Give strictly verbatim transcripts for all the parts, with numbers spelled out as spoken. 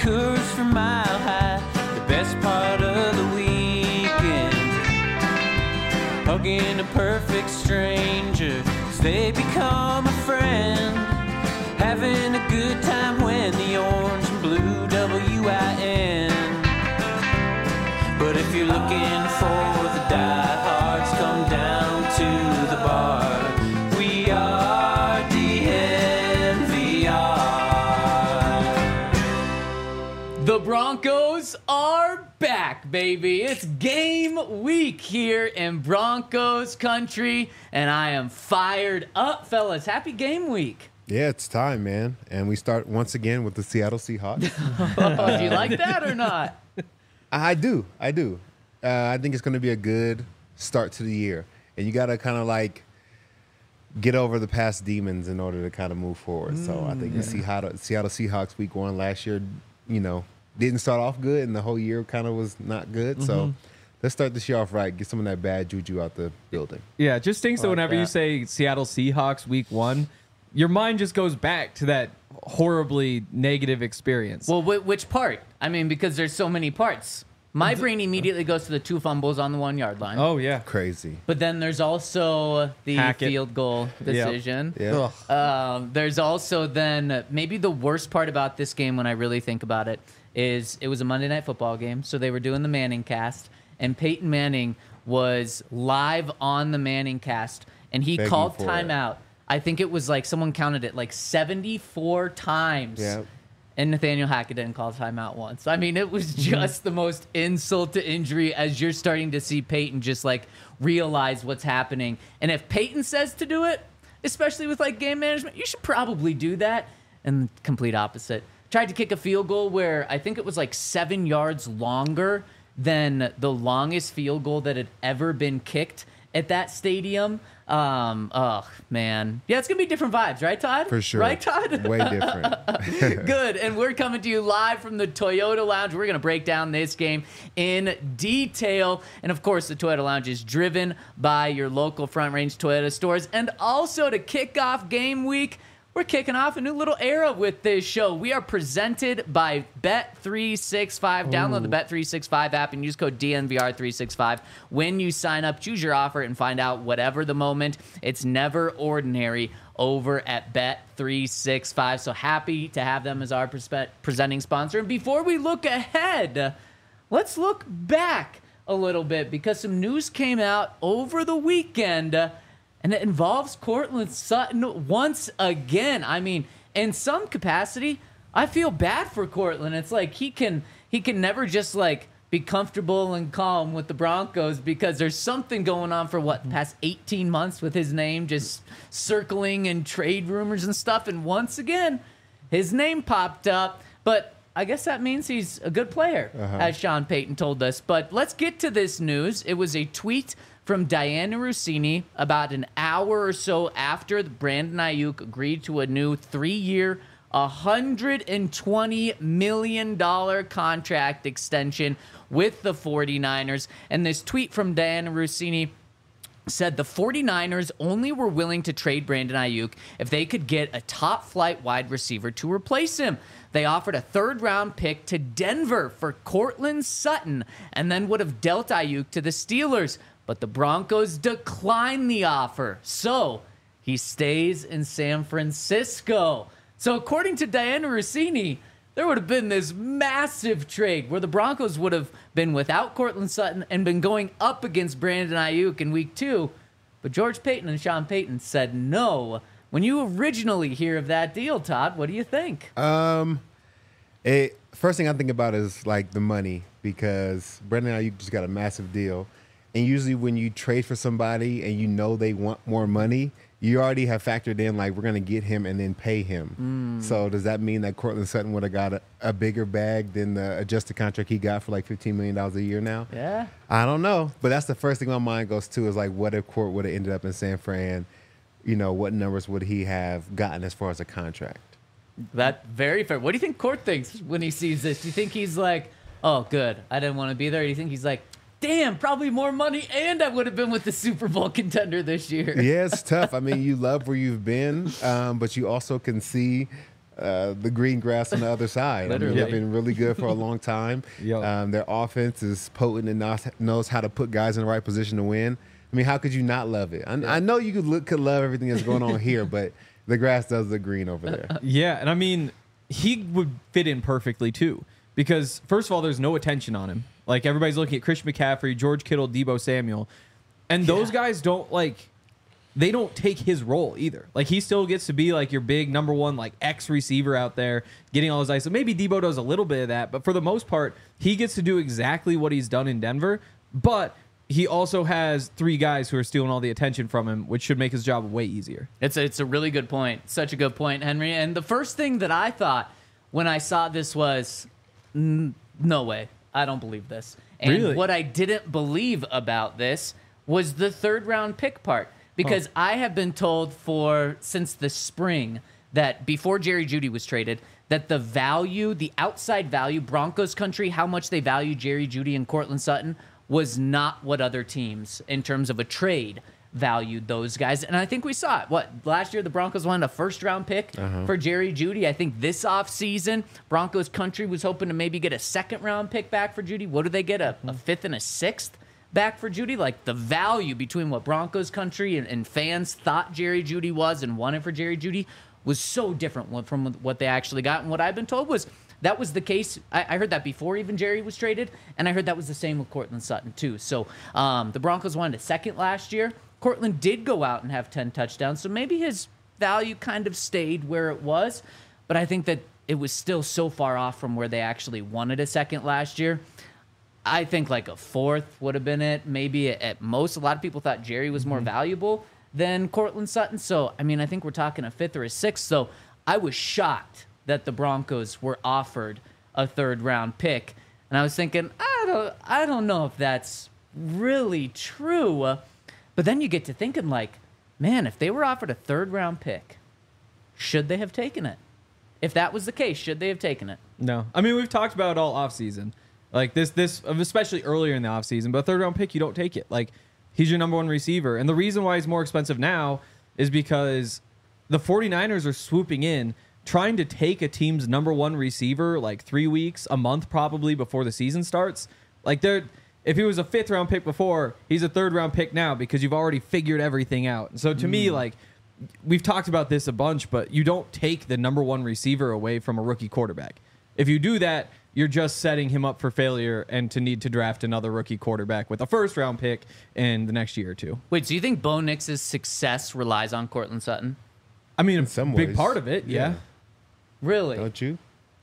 Coors from Mile High, the best part of the weekend. Hugging a perfect stranger as they become a friend. Having a good time when the orange and blue W I N. But if you're looking for the diehards, come down to the bar. We are D N V R. The Broncos are back, baby. It's game week here in Broncos country, and I am fired up, fellas. Happy game week. Yeah, it's time, man. And we start once again with the Seattle Seahawks. Oh, do you like that or not? I do. I do. Uh, I think it's going to be a good start to the year. And you got to kind of like get over the past demons in order to kind of move forward. Mm, so I think yeah. the Seattle, Seattle Seahawks week one last year, you know, didn't start off good, and the whole year kind of was not good. Mm-hmm. So let's start this year off right. Get some of that bad juju out the building. Yeah, it just stinks that like whenever that. you say Seattle Seahawks week one, your mind just goes back to that horribly negative experience. Well, wh- which part? I mean, because there's so many parts. My brain immediately goes to the two fumbles on the one-yard line. Oh, yeah. Crazy. But then there's also the Hackett. field goal decision. Yeah. Um, there's also then maybe the worst part about this game when I really think about it is it was a Monday Night Football game, so they were doing the Manning cast, and Peyton Manning was live on the Manning cast, and he Begging called for timeout. it. I think it was like someone counted it like seventy-four times. Yeah. And Nathaniel Hackett didn't call timeout once. I mean, it was just the most insult to injury as you're starting to see Peyton just like realize what's happening. And if Peyton says to do it, especially with like game management, you should probably do that. And complete opposite. Tried to kick a field goal where I think it was like seven yards longer than the longest field goal that had ever been kicked at that stadium. Um, oh, man. Yeah, it's going to be different vibes, right, Todd? For sure. Right, Todd? Way different. Good. And we're coming to you live from the Toyota Lounge. We're going to break down this game in detail. And, of course, the Toyota Lounge is driven by your local Front Range Toyota stores. And also to kick off game week, we're kicking off a new little era with this show. We are presented by Bet three sixty-five. Download the Bet three sixty-five app and use code D N V R three sixty-five. When you sign up, choose your offer and find out whatever the moment. It's never ordinary over at Bet three sixty-five. So happy to have them as our prespe- presenting sponsor. And before we look ahead, let's look back a little bit because some news came out over the weekend. Uh, And it involves Courtland Sutton once again. I mean, in some capacity, I feel bad for Courtland. It's like he can he can never just like be comfortable and calm with the Broncos because there's something going on for what, the past eighteen months with his name just circling and trade rumors and stuff. And once again, his name popped up. But I guess that means he's a good player, uh-huh. as Sean Payton told us. But let's get to this news. It was a tweet from Dianna Russini about an hour or so after Brandon Ayuk agreed to a new three-year, one hundred twenty million dollars contract extension with the 49ers. And this tweet from Dianna Russini said the 49ers only were willing to trade Brandon Ayuk if they could get a top-flight wide receiver to replace him. They offered a third-round pick to Denver for Courtland Sutton and then would have dealt Ayuk to the Steelers. But the Broncos declined the offer, so he stays in San Francisco. So according to Dianna Russini, there would have been this massive trade where the Broncos would have been without Courtland Sutton and been going up against Brandon Ayuk in week two. But George Paton and Sean Payton said no. When you originally hear of that deal, Todd, what do you think? Um, it, first thing I think about is like the money because Brandon Ayuk just got a massive deal. And usually when you trade for somebody and you know they want more money, you already have factored in, like, we're going to get him and then pay him. Mm. So does that mean that Courtland Sutton would have got a, a bigger bag than the adjusted contract he got for like fifteen million dollars a year now? Yeah. I don't know. But that's the first thing my mind goes to is, like, what if Court would have ended up in San Fran? You know, what numbers would he have gotten as far as a contract? That very fair. What do you think Court thinks when he sees this? Do you think he's like, oh, good, I didn't want to be there? Or do you think he's like, damn, probably more money, and I would have been with the Super Bowl contender this year? Yeah, it's tough. I mean, you love where you've been, um, but you also can see uh, the green grass on the other side. I mean, Literally. they've been really good for a long time. Yo. Um, their offense is potent and knows, knows how to put guys in the right position to win. I mean, how could you not love it? I, I know you could look, could love everything that's going on here, but the grass does look green over there. Yeah, and I mean, he would fit in perfectly too. Because, first of all, there's no attention on him. Like, everybody's looking at Christian McCaffrey, George Kittle, Debo Samuel. And those Yeah. guys don't, like, they don't take his role either. Like, he still gets to be, like, your big number one, like, X receiver out there, getting all his ice. So maybe Debo does a little bit of that. But for the most part, he gets to do exactly what he's done in Denver. But he also has three guys who are stealing all the attention from him, which should make his job way easier. It's a, it's a really good point. Such a good point, Henry. And the first thing that I thought when I saw this was, N- no way. I don't believe this. And Really? what I didn't believe about this was the third round pick part. Because I have been told for since the spring that before Jerry Jeudy was traded, that the value, the outside value, Broncos country, how much they value Jerry Jeudy and Cortland Sutton was not what other teams in terms of a trade valued those guys. And I think we saw it. What, last year the Broncos wanted a first round pick Uh-huh. for Jerry Jeudy. I think this offseason, Broncos country was hoping to maybe get a second round pick back for Jeudy. What do they get? A, a fifth and a sixth back for Jeudy? Like the value between what Broncos country and, and fans thought Jerry Jeudy was and wanted for Jerry Jeudy was so different from what they actually got. And what I've been told was that was the case. I, I heard that before even Jerry was traded, and I heard that was the same with Cortland Sutton too. So um, the Broncos wanted a second last year. Cortland did go out and have ten touchdowns, so maybe his value kind of stayed where it was, but I think that it was still so far off from where they actually wanted a second last year. I think like a fourth would have been it. Maybe at most, a lot of people thought Jerry was more valuable than Cortland Sutton. So, I mean, I think we're talking a fifth or a sixth. So I was shocked that the Broncos were offered a third round pick. And I was thinking, I don't, I don't know if that's really true. But then you get to thinking like, man, if they were offered a third round pick, should they have taken it? If that was the case, should they have taken it? No. I mean, we've talked about it all offseason. Like this, this, especially earlier in the offseason, but a third round pick, you don't take it. Like, he's your number one receiver. And the reason why he's more expensive now is because the 49ers are swooping in, trying to take a team's number one receiver like three weeks, a month probably before the season starts. Like, they're, if he was a fifth round pick before, he's a third round pick now because you've already figured everything out. And so to mm. me, like, we've talked about this a bunch, but you don't take the number one receiver away from a rookie quarterback. If you do that, you're just setting him up for failure and to need to draft another rookie quarterback with a first round pick in the next year or two. Wait, so you think Bo Nix's success relies on Cortland Sutton? I mean, a some big ways, part of it, yeah. yeah. Really? Don't you?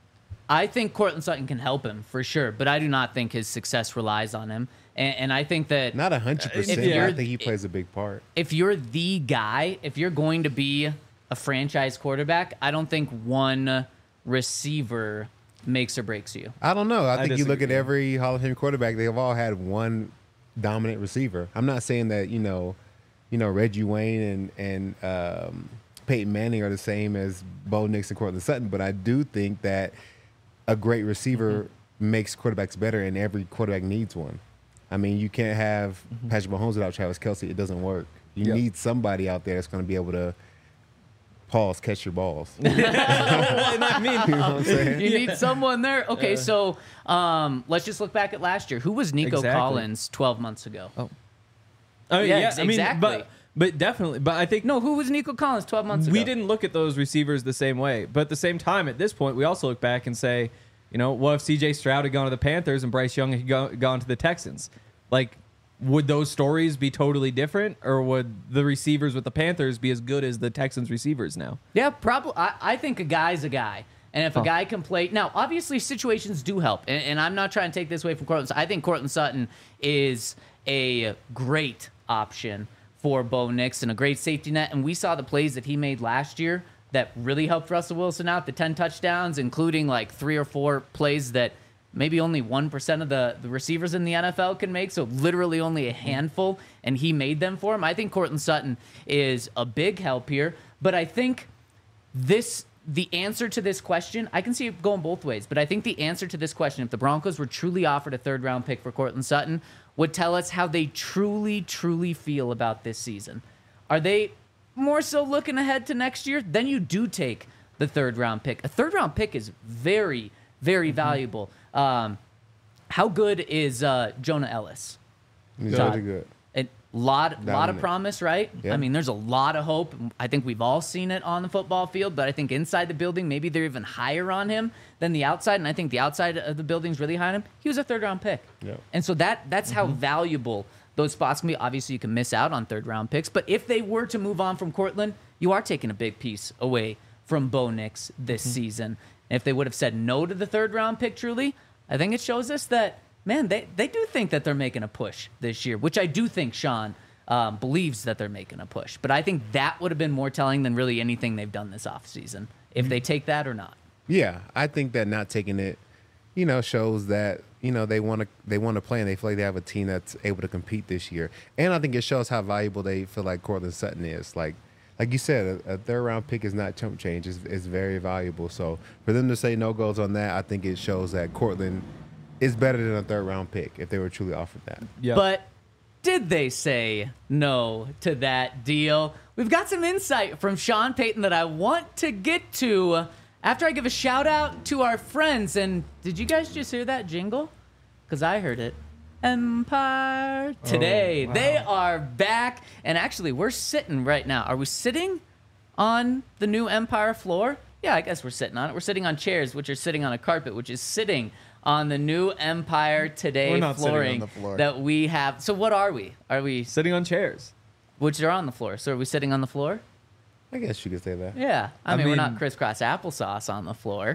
I think Cortland Sutton can help him for sure, but I do not think his success relies on him. And, and I think that Not a hundred percent. if but I you're- think he plays a big part. if you're the guy, if you're going to be a franchise quarterback, I don't think one receiver makes or breaks you. I don't know. I, I think you look at disagree. every Hall of Fame quarterback; they've all had one dominant receiver. I'm not saying that you know, you know Reggie Wayne and and um, Peyton Manning are the same as Bo Nix and Cortland Sutton, but I do think that a great receiver mm-hmm. makes quarterbacks better, and every quarterback needs one. I mean, you can't have mm-hmm. Patrick Mahomes without Travis Kelce. It doesn't work. You Yep. need somebody out there that's going to be able to pause, catch your balls. you know I mean, what I'm saying? You need someone there. Okay, so um, let's just look back at last year. Who was Nico Exactly. Collins twelve months ago? Oh. I mean, Yeah, yeah, ex- I mean, exactly. but but definitely, but I think No, who was Nico Collins twelve months ago? we didn't look at those receivers the same way. But at the same time, at this point, we also look back and say, you know, what if C J Stroud had gone to the Panthers and Bryce Young had go, gone to the Texans? Like, would those stories be totally different, or would the receivers with the Panthers be as good as the Texans receivers now? Yeah, probably. I, I think a guy's a guy. And if a guy can play... Now, obviously, situations do help. And, and I'm not trying to take this away from Cortland Sutton. I think Cortland Sutton is a great option for Bo Nix and a great safety net. And we saw the plays that he made last year that really helped Russell Wilson out, the ten touchdowns, including like three or four plays that maybe only one percent of the, the receivers in the N F L can make, so literally only a handful, and he made them for him. I think Cortland Sutton is a big help here, but I think this the answer to this question, I can see it going both ways, but I think the answer to this question, if the Broncos were truly offered a third-round pick for Cortland Sutton, would tell us how they truly, truly feel about this season. Are they more so looking ahead to next year? Then you do take the third round pick. A third round pick is very, very Mm-hmm. valuable. Um, how good is uh, Jonah Ellis? He's Todd. really good. A lot, lot of Dominant. promise, right? Yeah. I mean, there's a lot of hope. I think we've all seen it on the football field, but I think inside the building, maybe they're even higher on him than the outside. And I think the outside of the building's really high on him. He was a third round pick. Yeah. And so that that's how valuable those spots can be. Obviously, you can miss out on third round picks, but if they were to move on from Cortland, you are taking a big piece away from Bo Nix this season. And if they would have said no to the third round pick, truly, I think it shows us that, man, they, they do think that they're making a push this year, which I do think Sean um, believes that they're making a push. But I think that would have been more telling than really anything they've done this offseason, if they take that or not. Yeah, I think that not taking it, you know, shows that, you know, they want to they want to play and they feel like they have a team that's able to compete this year. And I think it shows how valuable they feel like Cortland Sutton is. Like like you said, a, a third round pick is not chump change. It's, it's very valuable. So for them to say no goes on that, I think it shows that Cortland is better than a third round pick if they were truly offered that. Yeah. But did they say no to that deal? We've got some insight from Sean Payton that I want to get to after I give a shout out to our friends. And did you guys just hear that jingle? Because I heard it. Empire Today. Oh, wow. They are back. And actually, we're sitting right now. Are we sitting on the new Empire floor? Yeah, I guess we're sitting on it. We're sitting on chairs, which are sitting on a carpet, which is sitting on the new Empire Today We're not sitting on flooring the floor. that we have. So what are we? Are we, Sitting on chairs. which are on the floor? So are we sitting on the floor? I guess you could say that. Yeah. I, I mean, we're mean- not crisscross applesauce on the floor.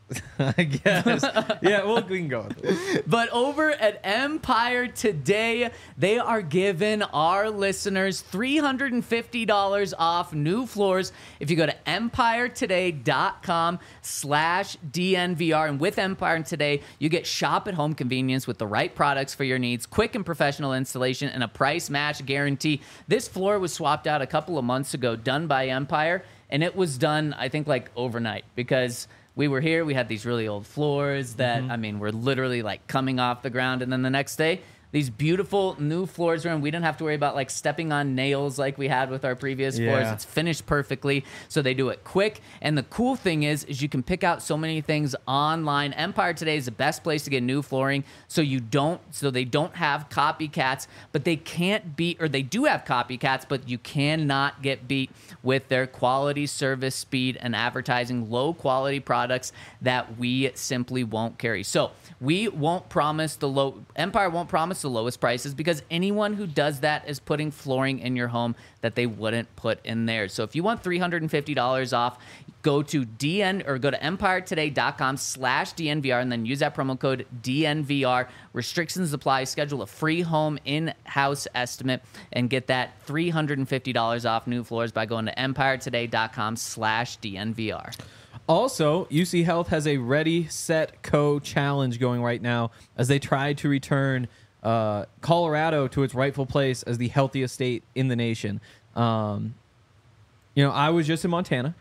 I guess. Yeah, well, we can go with it. But over at Empire Today, they are giving our listeners three hundred fifty dollars off new floors if you go to empiretoday.com slash DNVR. And with Empire Today, you get shop at home convenience with the right products for your needs, quick and professional installation, and a price match guarantee. This floor was swapped out a couple of months ago, done by Empire, and it was done, I think, like overnight because we were here, we had these really old floors that, I mean, were literally like coming off the ground. And then the next day, these beautiful new floors were in. We didn't have to worry about like stepping on nails like we had with our previous floors. Yeah. It's finished perfectly. So they do it quick. And the cool thing is, is you can pick out so many things online. Empire Today is the best place to get new flooring. So you don't, so they don't have copycats, but they can't beat, or they do have copycats, but you cannot get beat with their quality, service, speed, and advertising low quality products that we simply won't carry. So we won't promise the low, Empire won't promise the lowest prices because anyone who does that is putting flooring in your home that they wouldn't put in theirs. So if you want three hundred fifty dollars off, go to DN or go to empiretoday.com slash DNVR and then use that promo code D N V R. Restrictions apply. Schedule a free home in-house estimate and get that three hundred fifty dollars off new floors by going to empiretoday.com slash DNVR. Also, U C Health has a Ready, Set, Co challenge going right now as they try to return uh, Colorado to its rightful place as the healthiest state in the nation. Um, you know, I was just in Montana,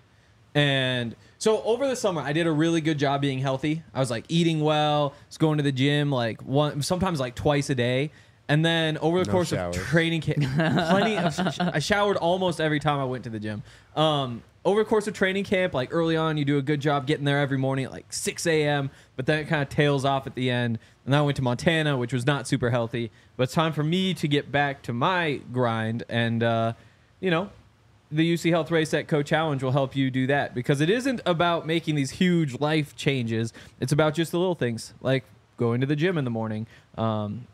and so over the summer, I did a really good job being healthy. I was like eating well, was going to the gym like one, sometimes like twice a day. And then over the No course showers. of training camp, plenty of, I showered almost every time I went to the gym. Um, over the course of training camp, like early on, you do a good job getting there every morning at like six a.m., but then it kind of tails off at the end. And then I went to Montana, which was not super healthy. But it's time for me to get back to my grind. And, uh, you know, the U C Health Race Set Co Challenge will help you do that because it isn't about making these huge life changes. It's about just the little things like going to the gym in the morning, um,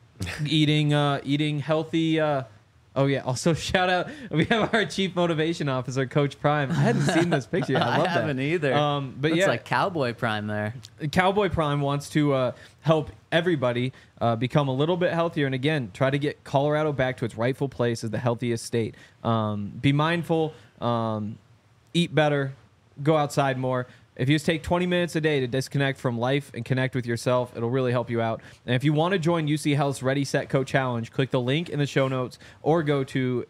eating uh, eating healthy. Uh, oh yeah! Also, shout out. We have our chief motivation officer, Coach Prime. I hadn't seen this picture yet. I love I haven't that. either. Um, but Looks yeah, like Cowboy Prime there. Cowboy Prime wants to uh, help everybody uh, become a little bit healthier, and again, try to get Colorado back to its rightful place as the healthiest state. Um, be mindful. Um, eat better. Go outside more. If you just take twenty minutes a day to disconnect from life and connect with yourself, it'll really help you out. And if you want to join U C Health's Ready, Set, Co Challenge, click the link in the show notes or go to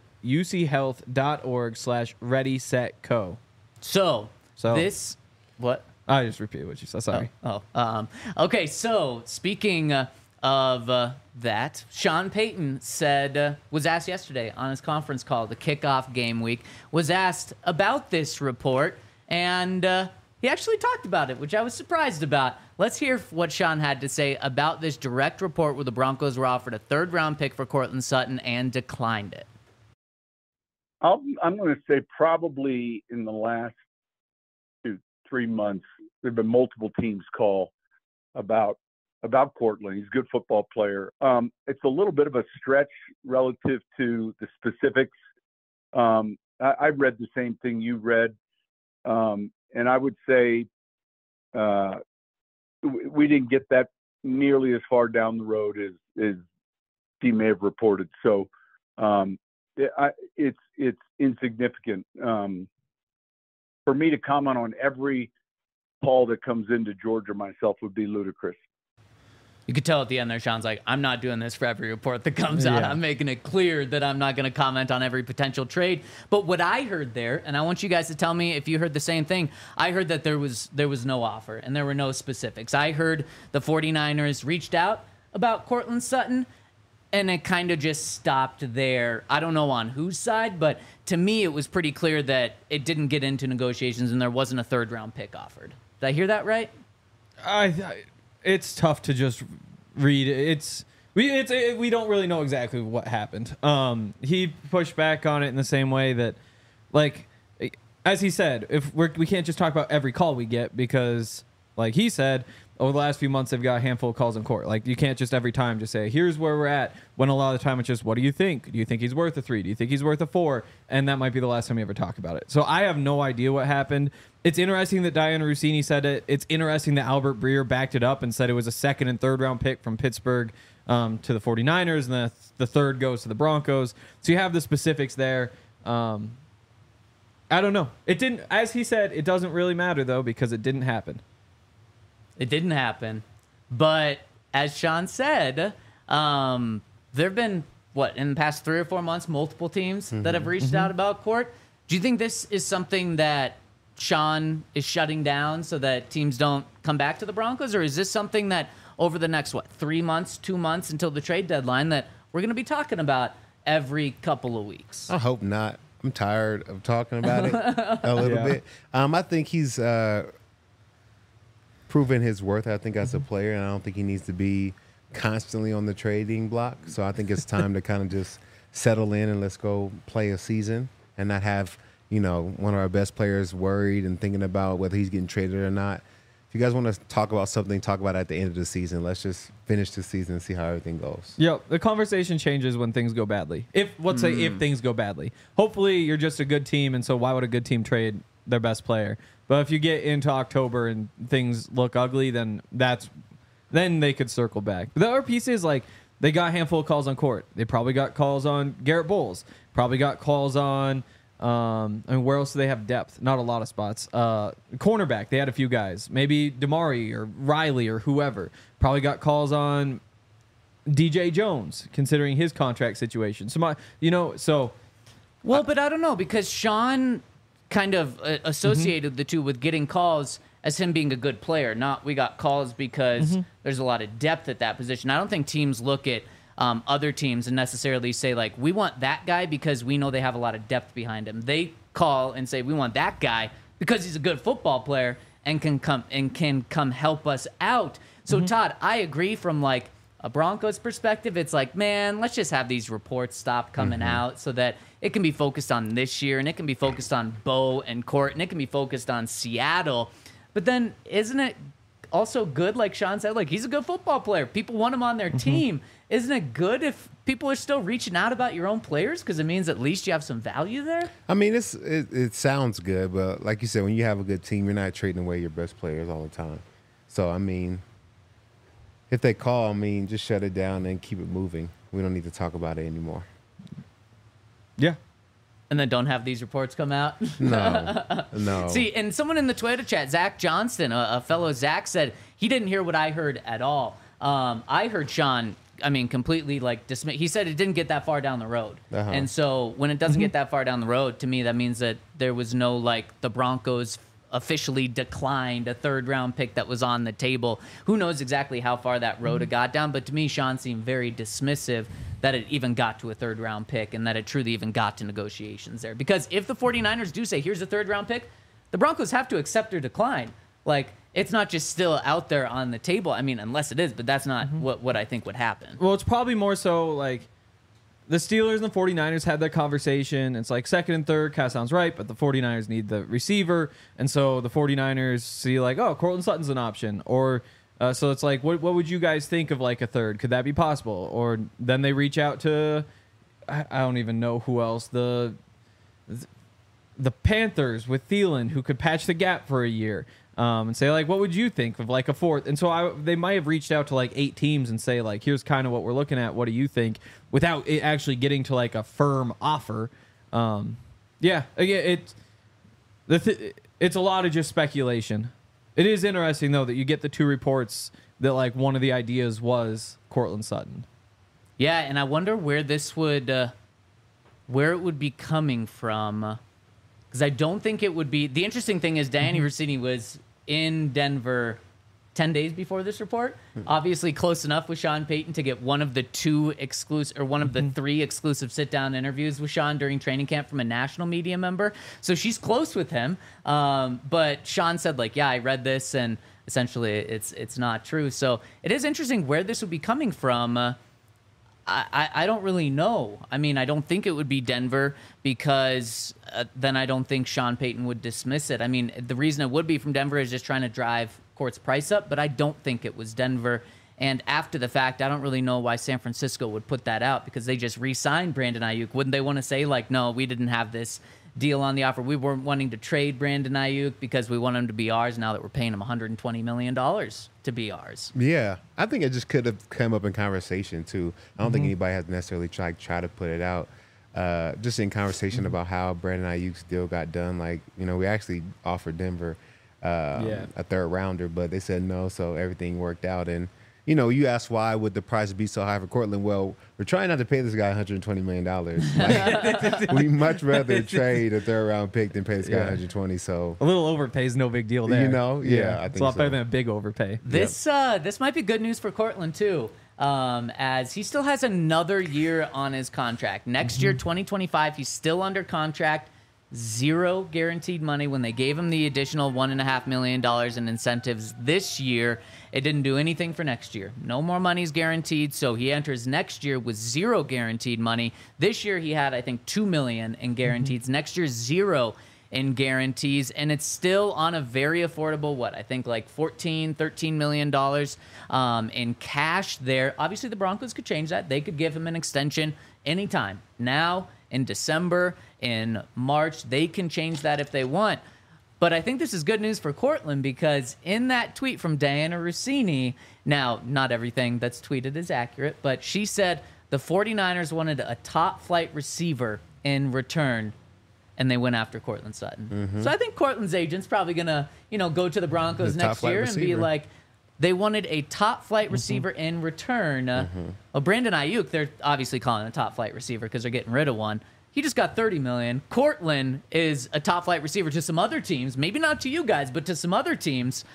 uchealth.org slash ready, set, co. So, So- this, what? I just repeated what you said. Sorry. Oh, oh, um, okay. So speaking uh, of uh, that, Sean Payton said uh, was asked yesterday on his conference call, the kickoff game week, was asked about this report, and uh, he actually talked about it, which I was surprised about. Let's hear what Sean had to say about this direct report where the Broncos were offered a third-round pick for Courtland Sutton and declined it. I'll, I'm going to say probably in the last two, three months, there have been multiple teams call about about Courtland. He's a good football player. Um, it's a little bit of a stretch relative to the specifics. Um, I, I read the same thing you read, um, and I would say uh, we didn't get that nearly as far down the road as, as he may have reported. So um, it, I, it's it's insignificant. Um, for me to comment on every call that comes into Georgia myself would be ludicrous. You could tell at the end there, Sean's like, I'm not doing this for every report that comes out. Yeah. I'm making it clear that I'm not going to comment on every potential trade. But what I heard there, and I want you guys to tell me if you heard the same thing, I heard that there was there was no offer and there were no specifics. I heard the 49ers reached out about Courtland Sutton, and it kind of just stopped there. I don't know on whose side, but to me it was pretty clear that it didn't get into negotiations and there wasn't a third-round pick offered. Did I hear that right? I, I it's tough to just read. It's we it's it, we don't really know exactly what happened. Um, he pushed back on it in the same way that, like, as he said, if we're we can't just talk about every call we get because, like he said, over the last few months they've got a handful of calls in court. Like you can't just every time just say here's where we're at. When a lot of the time it's just what do you think? Do you think he's worth a three? Do you think he's worth a four? And that might be the last time you ever talk about it. So I have no idea what happened. It's interesting that Diana Rossini said it. It's interesting that Albert Breer backed it up and said it was a second and third round pick from Pittsburgh um, to the 49ers, and the, the third goes to the Broncos. So you have the specifics there. Um, I don't know. It didn't, as he said, it doesn't really matter, though, because it didn't happen. It didn't happen. But as Sean said, um, there have been, what, in the past three or four months, multiple teams mm-hmm. that have reached mm-hmm. out about Court. Do you think this is something that Sean is shutting down so that teams don't come back to the Broncos? Or is this something that over the next, what, three months, two months until the trade deadline that we're going to be talking about every couple of weeks? I hope not. I'm tired of talking about it a little Yeah. bit. Um, I think he's uh, proven his worth, I think, as a player, and I don't think he needs to be constantly on the trading block. So I think it's time to kind of just settle in and let's go play a season and not have, you know, one of our best players worried and thinking about whether he's getting traded or not. If you guys want to talk about something, talk about it at the end of the season. Let's just finish the season and see how everything goes. Yeah, the conversation changes when things go badly. If let's say if things go badly. Hopefully you're just a good team, and so why would a good team trade their best player? But if you get into October and things look ugly, then that's then they could circle back. But the other piece is like they got a handful of calls on Court. They probably got calls on Garrett Bowles. Probably got calls on Um, I mean, where else do they have depth? Not a lot of spots. Uh, cornerback, they had a few guys. Maybe Damari or Riley or whoever. Probably got calls on D J Jones, considering his contract situation. So my, you know, so. Well, but I don't know, because Sean kind of uh, associated mm-hmm. the two with getting calls as him being a good player. Not we got calls because mm-hmm. there's a lot of depth at that position. I don't think teams look at Um, other teams and necessarily say, like, we want that guy because we know they have a lot of depth behind him. They call and say, we want that guy because he's a good football player and can come and can come help us out. So, mm-hmm. Todd, I agree from, like, a Broncos perspective. It's like, man, let's just have these reports stop coming mm-hmm. out so that it can be focused on this year and it can be focused on Bo and Court and it can be focused on Seattle. But then isn't it also good, like Sean said, like, he's a good football player. People want him on their mm-hmm. team. Isn't it good if people are still reaching out about your own players because it means at least you have some value there? I mean, it's it, it sounds good, but like you said, when you have a good team, you're not trading away your best players all the time. So, I mean, if they call, I mean, just shut it down and keep it moving. We don't need to talk about it anymore. Yeah. And then don't have these reports come out? No, no. See, and someone in the Twitter chat, Zach Johnston, a, a fellow Zach, said he didn't hear what I heard at all. Um, I heard Sean, I mean, completely like dismiss. He said it didn't get that far down the road. Uh-huh. And so when it doesn't mm-hmm. get that far down the road, to me, that means that there was no, like, the Broncos officially declined a third round pick that was on the table. Who knows exactly how far that road mm-hmm. got down, but to me, Sean seemed very dismissive that it even got to a third round pick and that it truly even got to negotiations there. Because if the 49ers do say, here's a third round pick, the Broncos have to accept or decline. Like, it's not just still out there on the table. I mean, unless it is, but that's not mm-hmm. what, what I think would happen. Well, it's probably more so like the Steelers and the 49ers had that conversation. It's like second and third kind of sounds right, but the 49ers need the receiver. And so the 49ers see like, oh, Courtland Sutton's an option. Or uh, so it's like, what, what would you guys think of like a third? Could that be possible? Or then they reach out to, I, I don't even know who else, the the Panthers with Thielen, who could patch the gap for a year. Um, and say, like, what would you think of, like, a fourth? And so I, they might have reached out to, like, eight teams and say, like, here's kind of what we're looking at. What do you think? Without it actually getting to, like, a firm offer. Um, yeah, again, it, the th- it's a lot of just speculation. It is interesting, though, that you get the two reports that, like, one of the ideas was Courtland Sutton. Yeah, and I wonder where this would, uh, where it would be coming from. Because I don't think it would be. The interesting thing is Dianna mm-hmm. Russini was in Denver ten days before this report. Mm-hmm. Obviously close enough with Sean Payton to get one of the two exclusive, or one of mm-hmm. the three exclusive sit-down interviews with Sean during training camp from a national media member. So she's close with him. Um, but Sean said, like, yeah, I read this, and essentially it's it's not true. So it is interesting where this would be coming from. Uh, I, I don't really know. I mean, I don't think it would be Denver because uh, then I don't think Sean Payton would dismiss it. I mean, the reason it would be from Denver is just trying to drive Court's price up, but I don't think it was Denver. And after the fact, I don't really know why San Francisco would put that out because they just re-signed Brandon Ayuk. Wouldn't they want to say, like, no, we didn't have this deal on the offer. We weren't wanting to trade Brandon Ayuk because we want him to be ours now that we're paying him one hundred twenty million dollars to be ours. Yeah, I think it just could have come up in conversation, too. I don't mm-hmm. think anybody has necessarily tried try to put it out. Uh, just in conversation mm-hmm. about how Brandon Ayuk's deal got done. Like, you know, we actually offered Denver uh, yeah. a third rounder, but they said no, so everything worked out. And, you know, you asked why would the price be so high for Courtland? Well, we're trying not to pay this guy one hundred twenty million dollars. Like, we much rather trade a third round pick than pay this guy yeah. one hundred twenty. So a little overpay is no big deal there. You know, yeah, yeah. I think it's a lot so. better than a big overpay. This yep. uh, this might be good news for Courtland too, um, as he still has another year on his contract. Next mm-hmm. year, twenty twenty-five, he's still under contract. Zero guaranteed money. When they gave him the additional one and a half million dollars in incentives this year, it didn't do anything for next year. No more money is guaranteed, so he enters next year with zero guaranteed money. This year he had, I think, two million in guarantees. Mm-hmm. Next year, zero in guarantees, and it's still on a very affordable, what, I think like fourteen, thirteen million dollars um, in cash there. Obviously, the Broncos could change that. They could give him an extension anytime. Now, in December, in March, they can change that if they want. But I think this is good news for Courtland because in that tweet from Dianna Russini, now, not everything that's tweeted is accurate, but she said the 49ers wanted a top-flight receiver in return, and they went after Courtland Sutton. Mm-hmm. So I think Courtland's agent's probably going to, you know, go to the Broncos the next year receiver. and be like, they wanted a top-flight receiver mm-hmm. in return. Uh, mm-hmm. Well, Brandon Ayuk, they're obviously calling a top-flight receiver because they're getting rid of one. He just got thirty million dollars. Courtland is a top-flight receiver to some other teams. Maybe not to you guys, but to some other teams.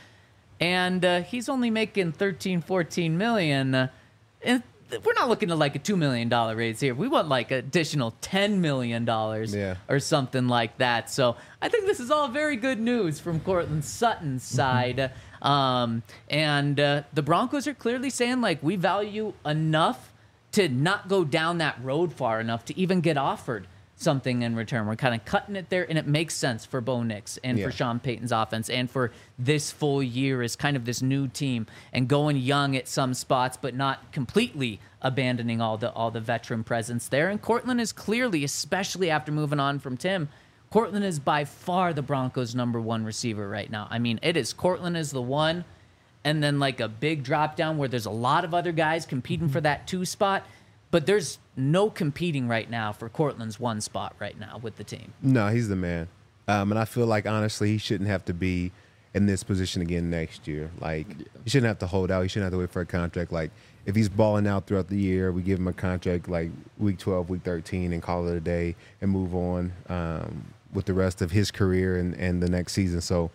And uh, he's only making thirteen, fourteen million dollars. Uh, and we're not looking at like a two million dollars raise here. We want like additional ten million dollars yeah. or something like that. So I think this is all very good news from Courtland Sutton's side. um, and uh, the Broncos are clearly saying, like, we value enough to not go down that road far enough to even get offered something in return. We're kind of cutting it there, and it makes sense for Bo Nix and yeah. for Sean Payton's offense and for this full year as kind of this new team and going young at some spots, but not completely abandoning all the all the veteran presence there. And Courtland is clearly, especially after moving on from Tim, Courtland is by far the Broncos' number one receiver right now. I mean, it is Courtland is the one, and then like a big drop down where there's a lot of other guys competing for that two spot, but there's no competing right now for Courtland's one spot right now with the team. No, he's the man. Um, and I feel like, honestly, he shouldn't have to be in this position again next year. Like, he shouldn't have to hold out. He shouldn't have to wait for a contract. Like, if he's balling out throughout the year, we give him a contract like week twelve, week thirteen, and call it a day and move on um, with the rest of his career and, and the next season. So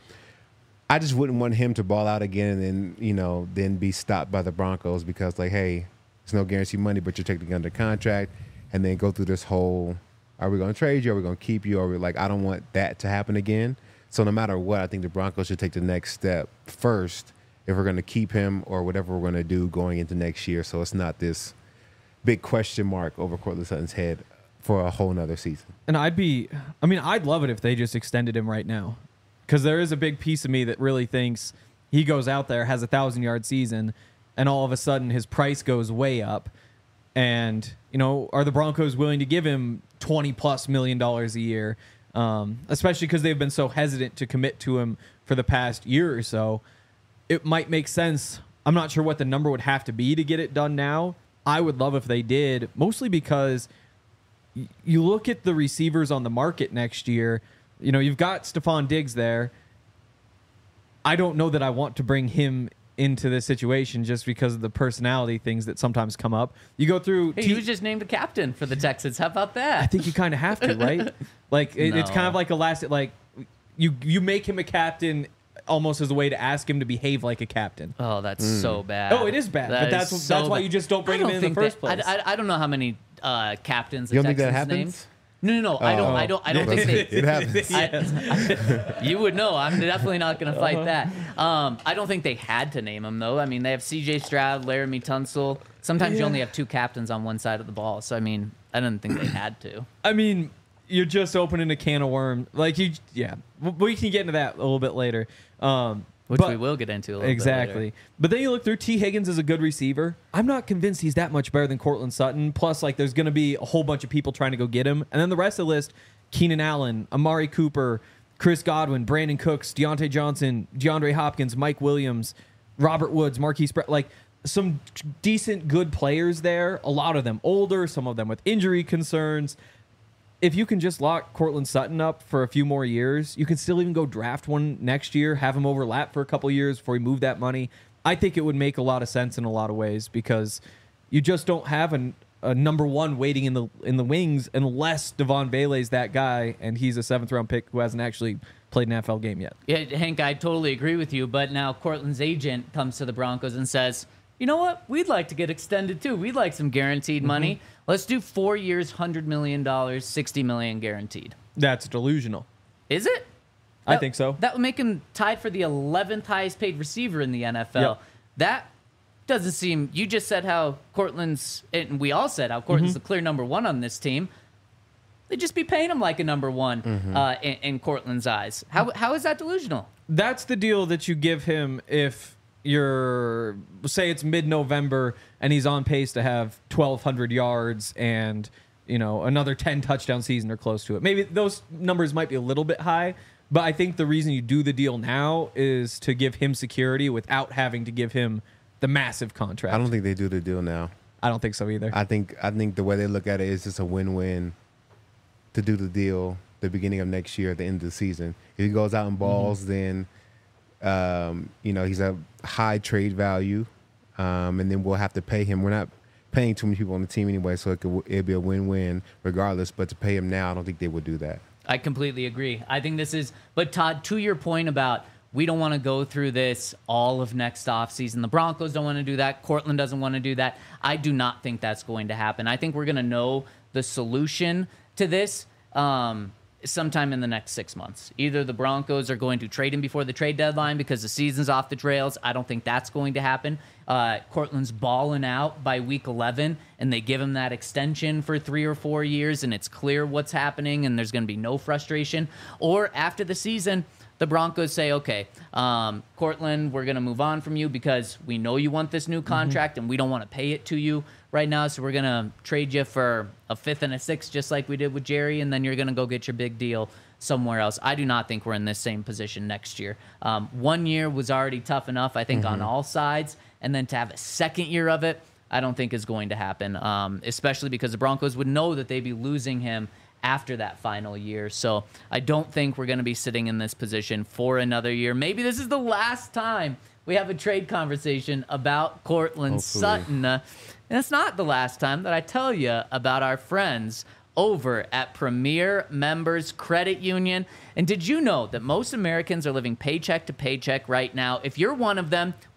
I just wouldn't want him to ball out again and then, you know, then be stopped by the Broncos because, like, hey, there's no guaranteed money, but you're technically under contract, and then go through this whole, are we going to trade you? Are we going to keep you? Are we like, I don't want that to happen again. So no matter what, I think the Broncos should take the next step first if we're going to keep him or whatever we're going to do going into next year. So it's not this big question mark over Courtland Sutton's head for a whole nother season. And I'd be, I mean, I'd love it if they just extended him right now. Because there is a big piece of me that really thinks he goes out there, has a thousand-yard season, and all of a sudden his price goes way up. And, you know, are the Broncos willing to give him twenty-plus million dollars a year? Um, especially because they've been so hesitant to commit to him for the past year or so. It might make sense. I'm not sure what the number would have to be to get it done now. I would love if they did, mostly because y- you look at the receivers on the market next year. You know, you've got Stephon Diggs there. I don't know that I want to bring him into this situation just because of the personality things that sometimes come up. You go through... Hey, T- he was just named the captain for the Texans. How about that? I think you kind of have to, right? Like, it, it's kind No. of like a last... Like, you you make him a captain almost as a way to ask him to behave like a captain. Oh, that's so bad. Oh, it is bad, That but that's is that's so why bad. you just don't bring I him in in the think first that- place. I, I, I don't know how many uh, captains the You don't think Texans that named. happens? No, no, no. I don't. Oh. I don't. I don't think they. It happens. I- you would know. I'm definitely not going to fight Uh-huh. that. Um, I don't think they had to name him though. I mean, they have C J Stroud, Laramie Tunsil. Sometimes you Yeah. only have two captains on one side of the ball. So I mean, I didn't think they had to. I mean, you're just opening a can of worms. Like you, yeah. W- We can get into that a little bit later. Um, Which but- we will get into a little exactly. bit later. But then you look through, T. Higgins is a good receiver. I'm not convinced he's that much better than Courtland Sutton. Plus, like, there's going to be a whole bunch of people trying to go get him. And then the rest of the list, Keenan Allen, Amari Cooper, Chris Godwin, Brandon Cooks, Deontay Johnson, DeAndre Hopkins, Mike Williams, Robert Woods, Marquise Brett. Like, some decent, good players there. A lot of them older, some of them with injury concerns. If you can just lock Courtland Sutton up for a few more years, you can still even go draft one next year, have him overlap for a couple years before you move that money. I think it would make a lot of sense in a lot of ways because you just don't have an, a number one waiting in the in the wings unless Devon Bailey's that guy and he's a seventh round pick who hasn't actually played an N F L game yet. Yeah, Hank, I totally agree with you. But now Courtland's agent comes to the Broncos and says, you know what? We'd like to get extended too. We'd like some guaranteed money. Let's do four years, one hundred million dollars, sixty million dollars guaranteed. That's delusional. Is it? I That- think so. That would make him tied for the eleventh highest paid receiver in the N F L. Yep. That doesn't seem. You just said how Courtland's, and we all said how Courtland's Mm-hmm. the clear number one on this team. They'd just be paying him like a number one Mm-hmm. uh, in, in Courtland's eyes. How how is that delusional? That's the deal that you give him if you're, say it's mid-November and he's on pace to have twelve hundred yards and, you know, another ten touchdown season or close to it. Maybe those numbers might be a little bit high, but I think the reason you do the deal now is to give him security without having to give him the massive contract. I don't think they do the deal now. I don't think so either. I think I think the way they look at it is just a win-win to do the deal the beginning of next year at the end of the season. If he goes out and balls, then um, you know he's a high trade value, um, and then we'll have to pay him. We're not paying too many people on the team anyway, so it could it'd be a win-win regardless. But to pay him now, I don't think they would do that. I completely agree. I think this is, but Todd, to your point about we don't want to go through this all of next offseason. The Broncos don't want to do that. Courtland doesn't want to do that. I do not think that's going to happen. I think we're going to know the solution to this um, sometime in the next six months. Either the Broncos are going to trade him before the trade deadline because the season's off the trails. I don't think that's going to happen. Uh, Courtland's balling out by week eleven, and they give him that extension for three or four years, and it's clear what's happening, and there's going to be no frustration. Or after the season, the Broncos say, okay, um, Courtland, we're going to move on from you because we know you want this new contract, and we don't want to pay it to you right now, so we're going to trade you for a fifth and a sixth, just like we did with Jerry, and then you're going to go get your big deal somewhere else. I do not think we're in this same position next year. Um, one year was already tough enough, I think, on all sides, and then to have a second year of it, I don't think is going to happen, um, especially because the Broncos would know that they'd be losing him after that final year. So I don't think we're going to be sitting in this position for another year. Maybe this is the last time we have a trade conversation about Courtland Hopefully. Sutton. Uh, and it's not the last time that I tell you about our friends over at Premier Members Credit Union. And did you know that most Americans are living paycheck to paycheck right now? If you're one of them,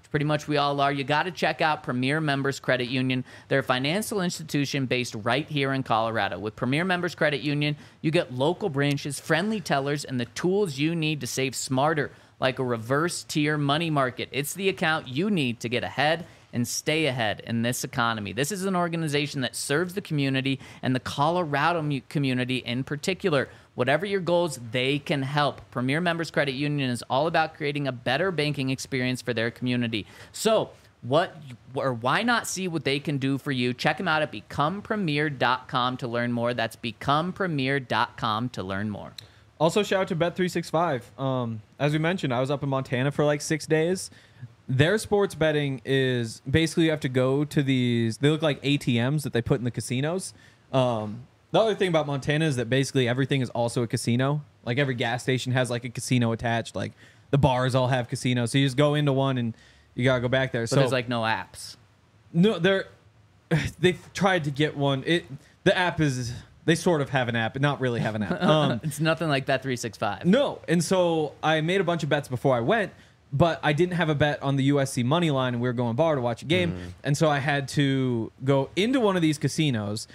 Pretty much we all are. You got to check out Premier Members Credit Union. They're a financial institution based right here in Colorado. With Premier Members Credit Union, you get local branches, friendly tellers, and the tools you need to save smarter, like a reverse tier money market. It's the account you need to get ahead and stay ahead in this economy. This is an organization that serves the community and the Colorado mu- community in particular. Whatever your goals, they can help. Premier Members Credit Union is all about creating a better banking experience for their community. So, what or why not see what they can do for you? Check them out at become premier dot com to learn more. That's become premier dot com to learn more. Also, shout out to Bet three sixty-five. Um, as we mentioned, I was up in Montana for like six days. Their sports betting is basically you have to go to these, they look like A T Ms that they put in the casinos. Um, the other thing about Montana is that basically everything is also a casino. Like every gas station has like a casino attached. Like the bars all have casinos. So you just go into one and you got to go back there. But so there's like no apps. No, they're, they've tried to get one. It The app is, they sort of have an app, but not really have an app. Um, It's nothing like Bet three sixty-five. No. And so I made a bunch of bets before I went, but I didn't have a bet on the U S C money line, and we were going bar to watch a game. Mm. And so I had to go into one of these casinos,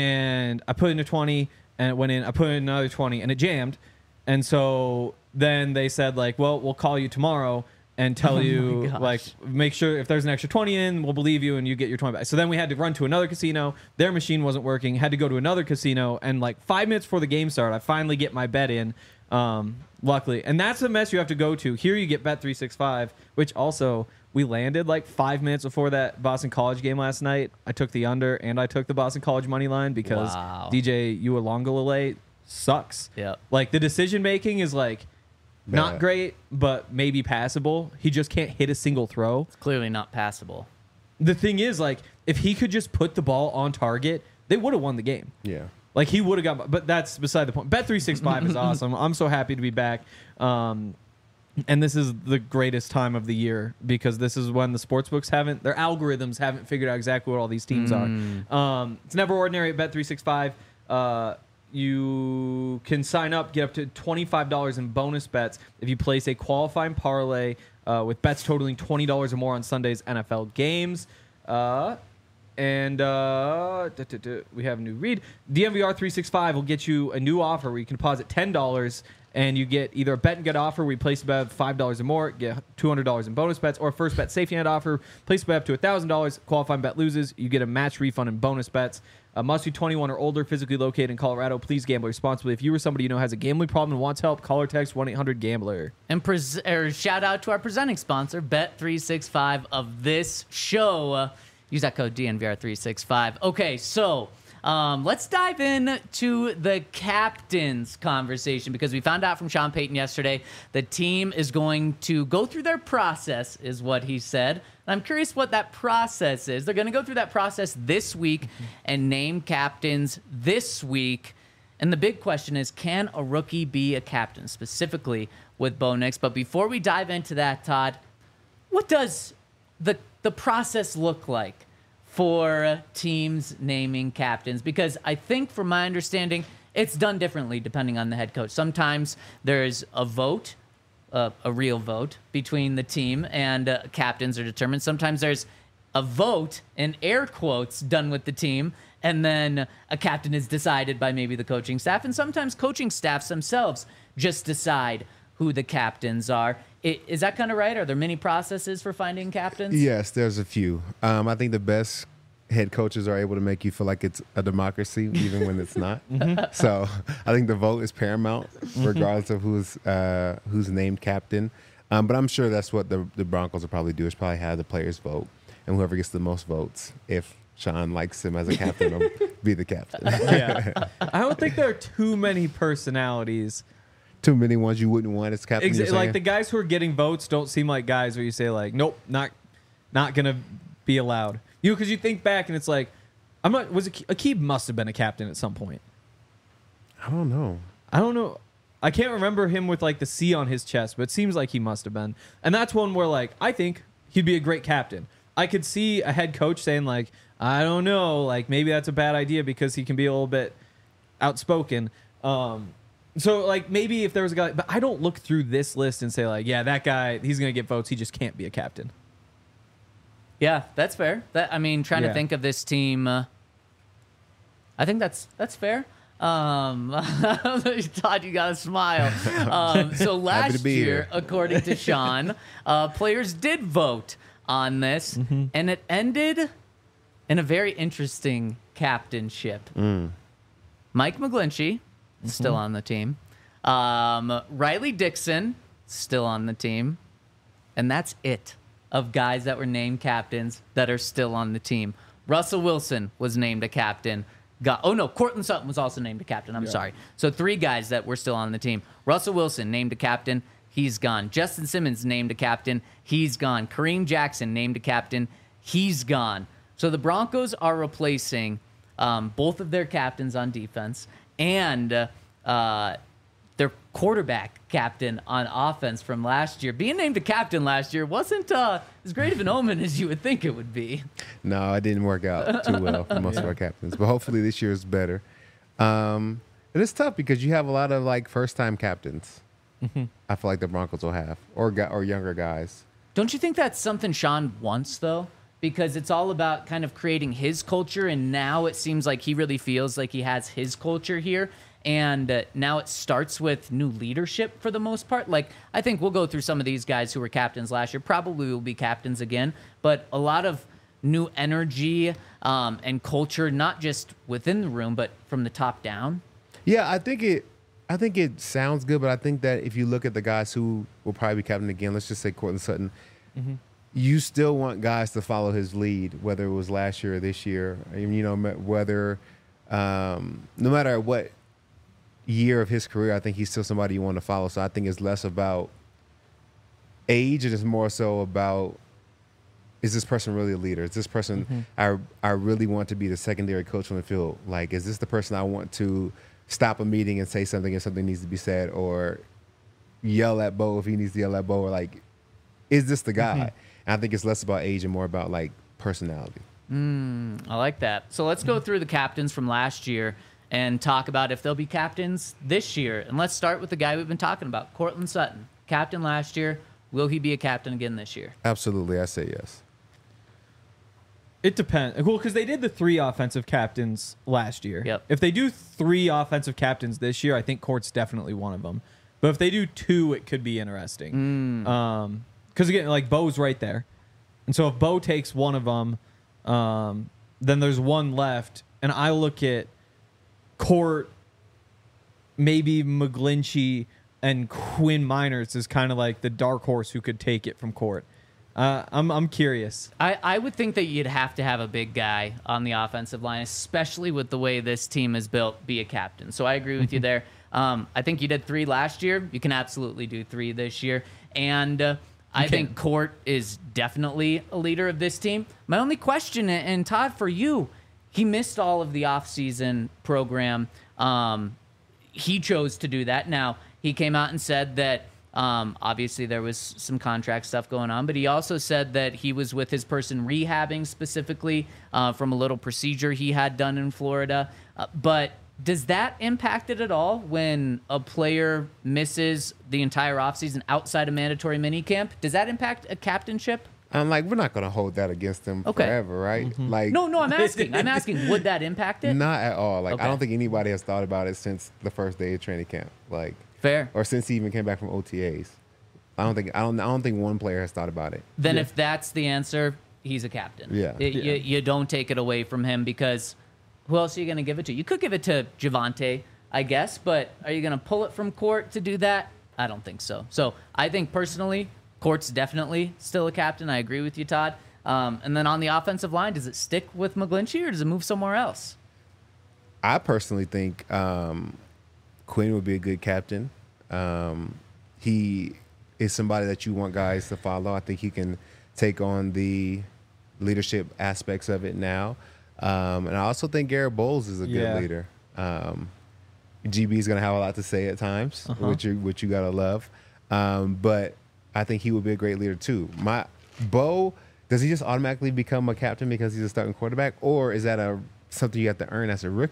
and I put in a twenty, and it went in. I put in another twenty, and it jammed. And so then they said, like, well, we'll call you tomorrow and tell Oh you, my gosh. like, make sure if there's an extra twenty in, we'll believe you, and you get your twenty back. So then we had to run to another casino. Their machine wasn't working. Had to go to another casino, and like five minutes before the game started, I finally get my bet in. Um, luckily, and that's the mess you have to go to. Here you get Bet three sixty-five, which also we landed like five minutes before that Boston College game last night. I took the under and I took the Boston College money line because Wow. D J Uiagalelei sucks. Yep. Like the decision making is like not Bad. great, but maybe passable. He just can't hit a single throw. Clearly not passable. The thing is, like, if he could just put the ball on target, they would have won the game. Yeah. Like he would have got, but that's beside the point. Bet three sixty-five is awesome. I'm so happy to be back. Um, and this is the greatest time of the year because this is when the sportsbooks haven't, their algorithms haven't figured out exactly what all these teams Mm. are. Um, it's never ordinary at Bet three sixty-five. Uh, you can sign up, get up to twenty-five dollars in bonus bets if you place a qualifying parlay uh, with bets totaling twenty dollars or more on Sunday's N F L games. Uh, And uh, duh, duh, duh, we have a new read. D M V R three sixty-five will get you a new offer where you can deposit ten dollars and you get either a bet and get offer where you place a bet of five dollars or more, get two hundred dollars in bonus bets, or a first bet safety net offer, place a bet up to one thousand dollars, qualifying bet loses, you get a match refund in bonus bets. Uh, must be twenty-one or older, physically located in Colorado. Please gamble responsibly. If you or somebody you know has a gambling problem and wants help, call or text one eight hundred gambler. And pres- or shout out to our presenting sponsor, Bet three sixty-five of this show. Uh, use that code D N V R three sixty-five. Okay, so um, let's dive in to the captain's conversation because we found out from Sean Payton yesterday the team is going to go through their process, is what he said. And I'm curious what that process is. They're going to go through that process this week and name captains this week. And the big question is, can a rookie be a captain, specifically with Bo Nix? But before we dive into that, Todd, what does the the process look like for teams naming captains? Because I think, from my understanding, it's done differently depending on the head coach. Sometimes there's a vote, uh, a real vote, between the team and uh, captains are determined. Sometimes there's a vote, in air quotes, done with the team, and then a captain is decided by maybe the coaching staff. And sometimes coaching staffs themselves just decide who the captains are. I- Is that kind of right? Are there many processes for finding captains? Yes, there's a few. Um, I think the best head coaches are able to make you feel like it's a democracy, even when it's not. So I think the vote is paramount, regardless of who's uh, who's named captain. Um, but I'm sure that's what the, the Broncos will probably do, is probably have the players vote, and whoever gets the most votes, if Sean likes him as a captain, will be the captain. Yeah. I don't think there are too many personalities. Too many ones you wouldn't want as captain. Exa- you're like saying? the guys who are getting votes don't seem like guys where you say like, nope, not not gonna be allowed. You because you think back and it's like, I'm not. Was Ake- Akib must have been a captain at some point. I don't know. I don't know. I can't remember him with like the C on his chest, but it seems like he must have been. And that's one where like I think he'd be a great captain. I could see a head coach saying like, I don't know, like maybe that's a bad idea because he can be a little bit outspoken. Um, so like maybe if there was a guy, but I don't look through this list and say like, yeah, that guy, he's gonna get votes. He just can't be a captain. Yeah, that's fair. That I mean, trying Yeah. to think of this team. Uh, I think that's that's fair. Um, Todd, you got to smile. Um, so last to be year, here. according to Sean, uh, players did vote on this, Mm-hmm. and it ended in a very interesting captainship. Mm. Mike McGlinchey, still on the team. Um, Riley Dixon, still on the team. And that's it of guys that were named captains that are still on the team. Russell Wilson was named a captain. Got, oh, no, Cortland Sutton was also named a captain. I'm sorry. So three guys that were still on the team. Russell Wilson named a captain. He's gone. Justin Simmons named a captain. He's gone. Kareem Jackson named a captain. He's gone. So the Broncos are replacing um, both of their captains on defense and uh, uh, their quarterback captain on offense from last year. Being named a captain last year wasn't uh, as great of an omen as you would think it would be. No, it didn't work out too well for most of our captains, but hopefully this year is better. Um, and it's tough because you have a lot of like first-time captains. I feel like the Broncos will have, or gu- or younger guys. Don't you think that's something Sean wants, though? Because it's all about kind of creating his culture, and now it seems like he really feels like he has his culture here. And uh, now it starts with new leadership for the most part. Like, I think we'll go through some of these guys who were captains last year, probably will be captains again, but a lot of new energy um, and culture, not just within the room, but from the top down. Yeah, I think it. I think it sounds good, but I think that if you look at the guys who will probably be captain again, let's just say Cortland Sutton, you still want guys to follow his lead, whether it was last year or this year. And, you know, whether um, no matter what year of his career, I think he's still somebody you want to follow. So I think it's less about age and it's more so about, is this person really a leader? Is this person I I really want to be the secondary coach on the field? Like, is this the person I want to stop a meeting and say something if something needs to be said, or yell at Bo if he needs to yell at Bo, or like, is this the guy? And I think it's less about age and more about like personality. I like that. So let's go through the captains from last year and talk about if they'll be captains this year. And let's start with the guy we've been talking about, Cortland Sutton. Captain last year. Will he be a captain again this year? Absolutely, I say yes. It depends. Well, because they did the three offensive captains last year. Yep. If they do three offensive captains this year, I think Court's definitely one of them. But if they do two, it could be interesting. Um, because again, like Bo's right there, and so if Bo takes one of them, um, then there's one left, and I look at Court, maybe McGlinchey, and Quinn Miners is kind of like the dark horse who could take it from Court. Uh, I'm I'm curious. I, I would think that you'd have to have a big guy on the offensive line, especially with the way this team is built, be a captain. So I agree with you there. Um, I think you did three last year. You can absolutely do three this year. And uh, I can. think Court is definitely a leader of this team. My only question, and Todd, for you, he missed all of the offseason program. Um, he chose to do that. Now, he came out and said that Um, obviously, there was some contract stuff going on, but he also said that he was with his person rehabbing specifically uh, from a little procedure he had done in Florida. Uh, but does that impact it at all when a player misses the entire offseason outside of mandatory minicamp? Does that impact a captainship? I'm like, we're not going to hold that against them Okay. forever, right? Like, No, no, I'm asking. I'm asking, would that impact it? not at all. Like, Okay. I don't think anybody has thought about it since the first day of training camp. Like, Fair. or since he even came back from O T As. I don't think I don't I don't think one player has thought about it. Then if that's the answer, he's a captain. Yeah. Y- You, you don't take it away from him because who else are you going to give it to? You could give it to Javante, I guess, but are you going to pull it from Court to do that? I don't think so. So I think personally, Court's definitely still a captain. I agree with you, Todd. Um, and then on the offensive line, does it stick with McGlinchey or does it move somewhere else? I personally think um, Quinn would be a good captain. Um, he is somebody that you want guys to follow. I think he can take on the leadership aspects of it now. Um, and I also think Garrett Bowles is a good Yeah. leader. Um, G B is going to have a lot to say at times, Uh-huh. which you which you got to love. Um, but I think he would be a great leader too. My Bo, does he just automatically become a captain because he's a starting quarterback, or is that a something you have to earn as a rookie?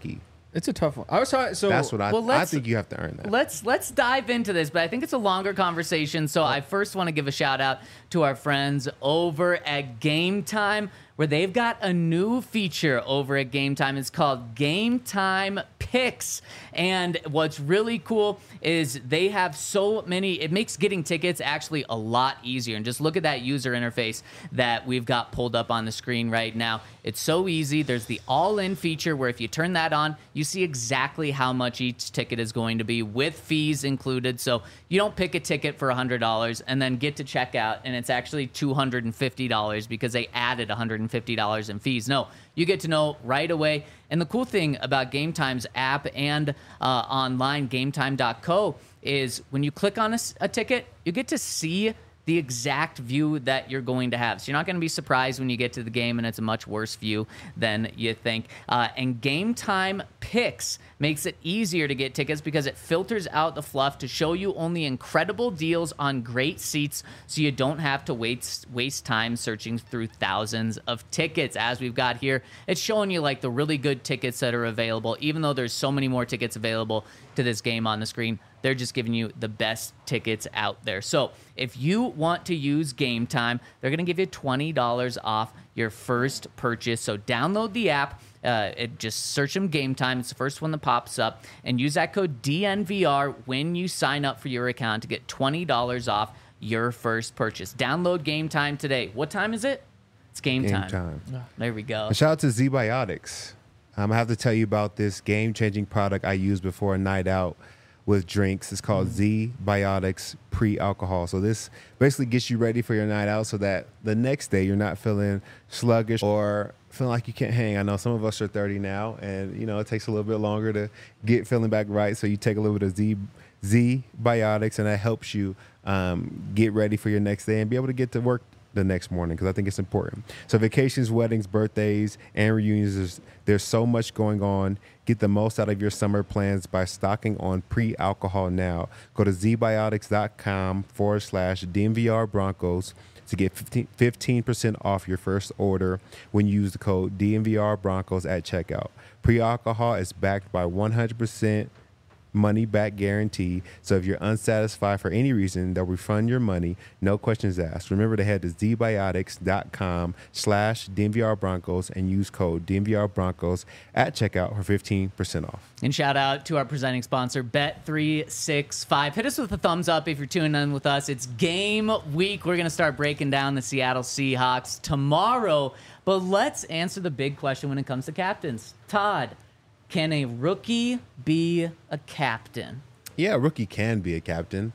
It's a tough one. I was talking. So That's what I. Well, I let's- think you have to earn that. Let's let's dive into this, but I think it's a longer conversation. So I first want to give a shout out to our friends over at Game Time, where they've got a new feature over at Game Time. It's called Game Time Picks. And what's really cool is they have so many, it makes getting tickets actually a lot easier. And just look at that user interface that we've got pulled up on the screen right now. It's so easy. There's the all-in feature where if you turn that on, you see exactly how much each ticket is going to be with fees included. So you don't pick a ticket for one hundred dollars and then get to checkout and it's actually two hundred fifty dollars because they added one hundred fifty dollars in fees. No, you get to know right away. And the cool thing about Game Time's app and uh, online, game time dot co, is when you click on a, s- a ticket, you get to see the exact view that you're going to have. So you're not going to be surprised when you get to the game and it's a much worse view than you think. Uh, and Game Time Picks makes it easier to get tickets because it filters out the fluff to show you only incredible deals on great seats so you don't have to waste, waste time searching through thousands of tickets. As we've got here, it's showing you like the really good tickets that are available, even though there's so many more tickets available to this game on the screen. They're just giving you the best tickets out there. So if you want to use Game Time, they're going to give you twenty dollars off your first purchase. So download the app. Uh, it, just search them Game Time. It's the first one that pops up. And use that code D N V R when you sign up for your account to get twenty dollars off your first purchase. Download Game Time today. What time is it? It's game, Game time. time. There we go. And shout out to Z-Biotics. Um, I have to tell you about this game-changing product I used before a night out with drinks. It's called Z-Biotics Pre-Alcohol. So this basically gets you ready for your night out so that the next day you're not feeling sluggish or feeling like you can't hang. I know some of us are thirty now, and you know it takes a little bit longer to get feeling back right. So you take a little bit of Z Z-Biotics, and that helps you um, get ready for your next day and be able to get to work the next morning, because I think it's important. So vacations, weddings, birthdays, and reunions, there's, there's so much going on. Get the most out of your summer plans by stocking on pre-alcohol now. Go to zbiotics.com forward slash DNVR Broncos to get fifteen percent off your first order when you use the code D N V R Broncos at checkout. Pre-alcohol is backed by one hundred percent money back guarantee. So if you're unsatisfied for any reason, they'll refund your money. No questions asked. Remember to head to zbiotics.com slash DNVR Broncos and use code D N V R Broncos at checkout for fifteen percent off. And shout out to our presenting sponsor, Bet three sixty-five. Hit us with a thumbs up if you're tuning in with us. It's game week. We're going to start breaking down the Seattle Seahawks tomorrow. But let's answer the big question when it comes to captains. Todd, can a rookie be a captain? Yeah, a rookie can be a captain.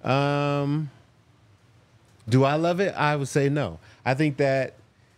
Um, do I love it? I would say no. I think that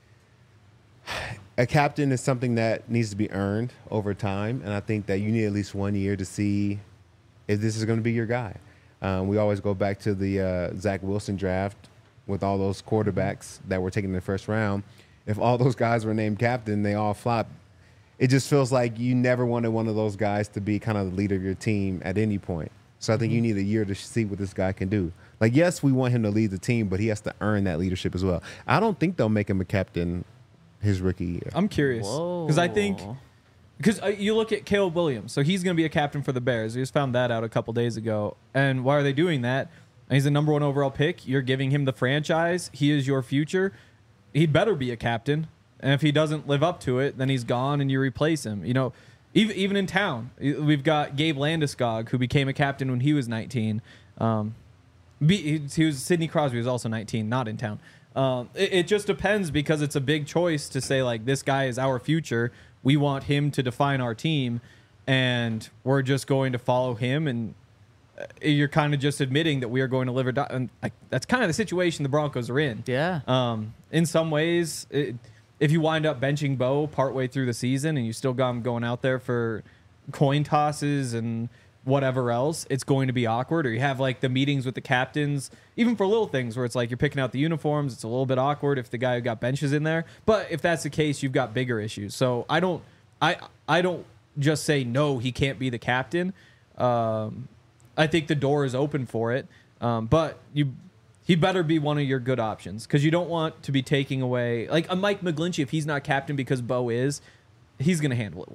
a captain is something that needs to be earned over time, and I think that you need at least one year to see if this is going to be your guy. Um, we always go back to the uh, Zach Wilson draft with all those quarterbacks that were taken in the first round. If all those guys were named captain, they all flopped. It just feels like you never wanted one of those guys to be kind of the leader of your team at any point. So I think mm-hmm. you need a year to see what this guy can do. Like, yes, we want him to lead the team, but he has to earn that leadership as well. I don't think they'll make him a captain his rookie year. I'm curious because I think because uh, you look at Caleb Williams, so he's going to be a captain for the Bears. We just found that out a couple days ago. And why are they doing that? He's the number one overall pick. You're giving him the franchise. He is your future. He'd better be a captain. And if he doesn't live up to it, then he's gone and you replace him. You know, even even in town, we've got Gabe Landeskog, who became a captain when he was nineteen. Um, he was Sidney Crosby was also nineteen, not in town. Um, it, it just depends because it's a big choice to say, like, this guy is our future. We want him to define our team, and we're just going to follow him. And you're kind of just admitting that we are going to live or die. And like, that's kind of the situation the Broncos are in. Yeah. Um, in some ways, it, if you wind up benching Bo partway through the season and you still got him going out there for coin tosses and whatever else, it's going to be awkward. Or you have like the meetings with the captains, even for little things where it's like you're picking out the uniforms. It's a little bit awkward if the guy who got benches in there. But if that's the case, you've got bigger issues. So I don't, I, I don't just say no, he can't be the captain. Um, I think the door is open for it. Um, but you. He better be one of your good options because you don't want to be taking away like a Mike McGlinchey. If he's not captain because Bo is, he's going to handle it well.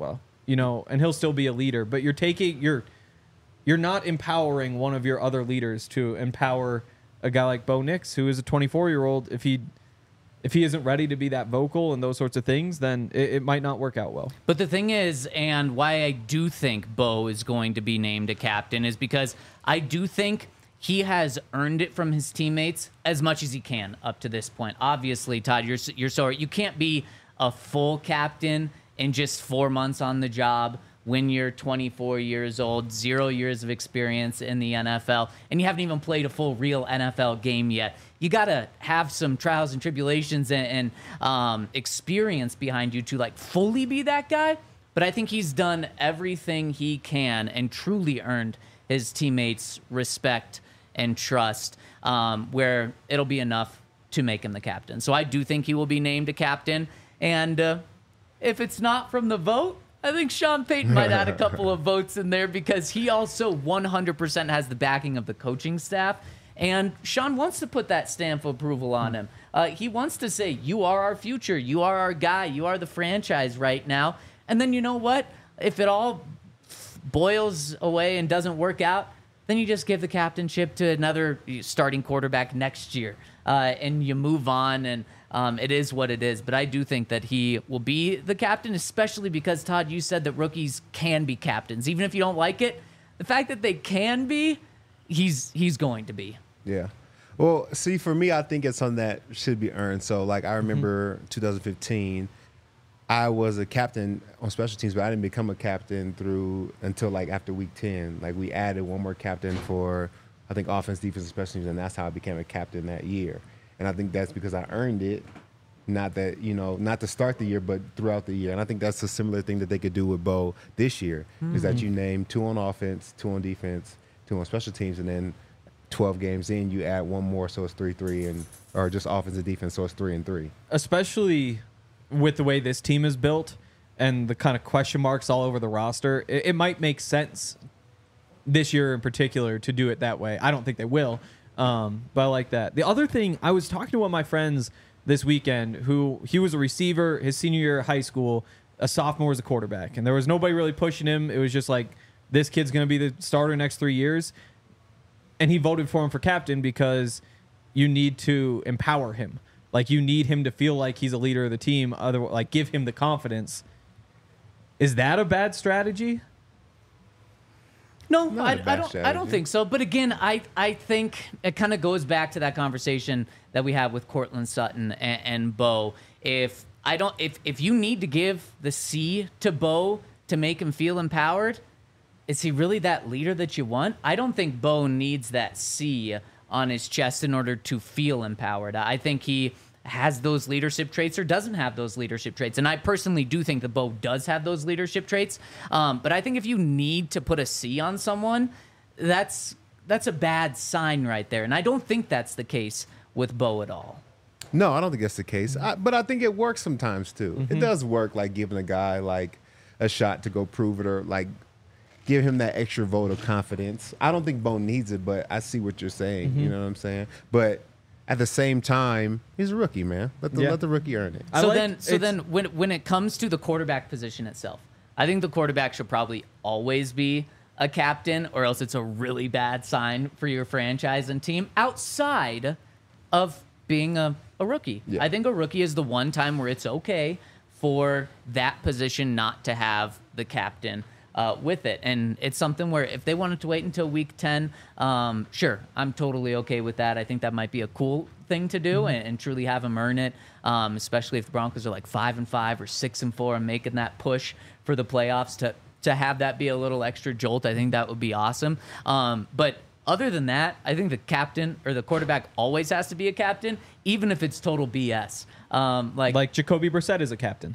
you know, and he'll still be a leader. But you're taking you're you're not empowering one of your other leaders to empower a guy like Bo Nix, who is a twenty-four year old. If he if he isn't ready to be that vocal and those sorts of things, then it, it might not work out well. But the thing is, and why I do think Bo is going to be named a captain, is because I do think he has earned it from his teammates as much as he can up to this point. Obviously, Todd, you're you're sorry. You can't be a full captain in just four months on the job when you're twenty-four years old, zero years of experience in the N F L, and you haven't even played a full real N F L game yet. You got to have some trials and tribulations and, and um, experience behind you to like fully be that guy. But I think he's done everything he can and truly earned his teammates' respect and trust, um, where it'll be enough to make him the captain. So I do think he will be named a captain. And uh, if it's not from the vote, I think Sean Payton might add a couple of votes in there because he also one hundred percent has the backing of the coaching staff. And Sean wants to put that stamp of approval on him. Uh, he wants to say, you are our future. You are our guy. You are the franchise right now. And then you know what? If it all boils away and doesn't work out, then you just give the captainship to another starting quarterback next year. Uh, and you move on, and um, it is what it is. But I do think that he will be the captain, especially because, Todd, you said that rookies can be captains. Even if you don't like it, the fact that they can be, he's he's going to be. Yeah. Well, see, for me, I think it's something that should be earned. So, like, I remember mm-hmm. two thousand fifteen, I was a captain on special teams, but I didn't become a captain through until, like, after week ten. Like, we added one more captain for, I think, offense, defense, and special teams, and that's how I became a captain that year. And I think that's because I earned it, not that, you know, not to start the year, but throughout the year. And I think that's a similar thing that they could do with Bo this year, mm-hmm. is that you name two on offense, two on defense, two on special teams, and then twelve games in, you add one more, so it's three three, and or just offense and defense, so it's three and three. Especially with the way this team is built and the kind of question marks all over the roster, it, it might make sense this year in particular to do it that way. I don't think they will, um, but I like that. The other thing, I was talking to one of my friends this weekend who he was a receiver his senior year of high school, a sophomore as a quarterback, and there was nobody really pushing him. It was just like, this kid's going to be the starter next three years. And he voted for him for captain because you need to empower him. Like, you need him to feel like he's a leader of the team. Other, like, give him the confidence. Is that a bad strategy? No, Not I, a bad I don't. strategy. I don't think so. But again, I I think it kind of goes back to that conversation that we had with Courtland Sutton and, and Bo. If I don't, if if you need to give the C to Bo to make him feel empowered, is he really that leader that you want? I don't think Bo needs that C on his chest in order to feel empowered. I think he has those leadership traits or doesn't have those leadership traits. And I personally do think that Bo does have those leadership traits. Um, but I think if you need to put a C on someone, that's that's a bad sign right there. And I don't think that's the case with Bo at all. No, I don't think that's the case. I, but I think it works sometimes too. Mm-hmm. It does work, like giving a guy like a shot to go prove it, or like give him that extra vote of confidence. I don't think Bo needs it, but I see what you're saying. Mm-hmm. You know what I'm saying? But at the same time, he's a rookie, man. Let the Yeah. let the rookie earn it. I So like- then, so it's- then, when when it comes to the quarterback position itself, I think the quarterback should probably always be a captain, or else it's a really bad sign for your franchise and team outside of being a, a rookie. Yeah. I think a rookie is the one time where it's okay for that position not to have the captain uh, with it. And it's something where if they wanted to wait until week ten, um, sure, I'm totally okay with that. I think that might be a cool thing to do and, and truly have him earn it, um, especially if the Broncos are like five and five or six and four and making that push for the playoffs to to have that be a little extra jolt. I think that would be awesome. Um, but other than that, I think the captain or the quarterback always has to be a captain, even if it's total B S. Um, like, Like Jacoby Brissett is a captain.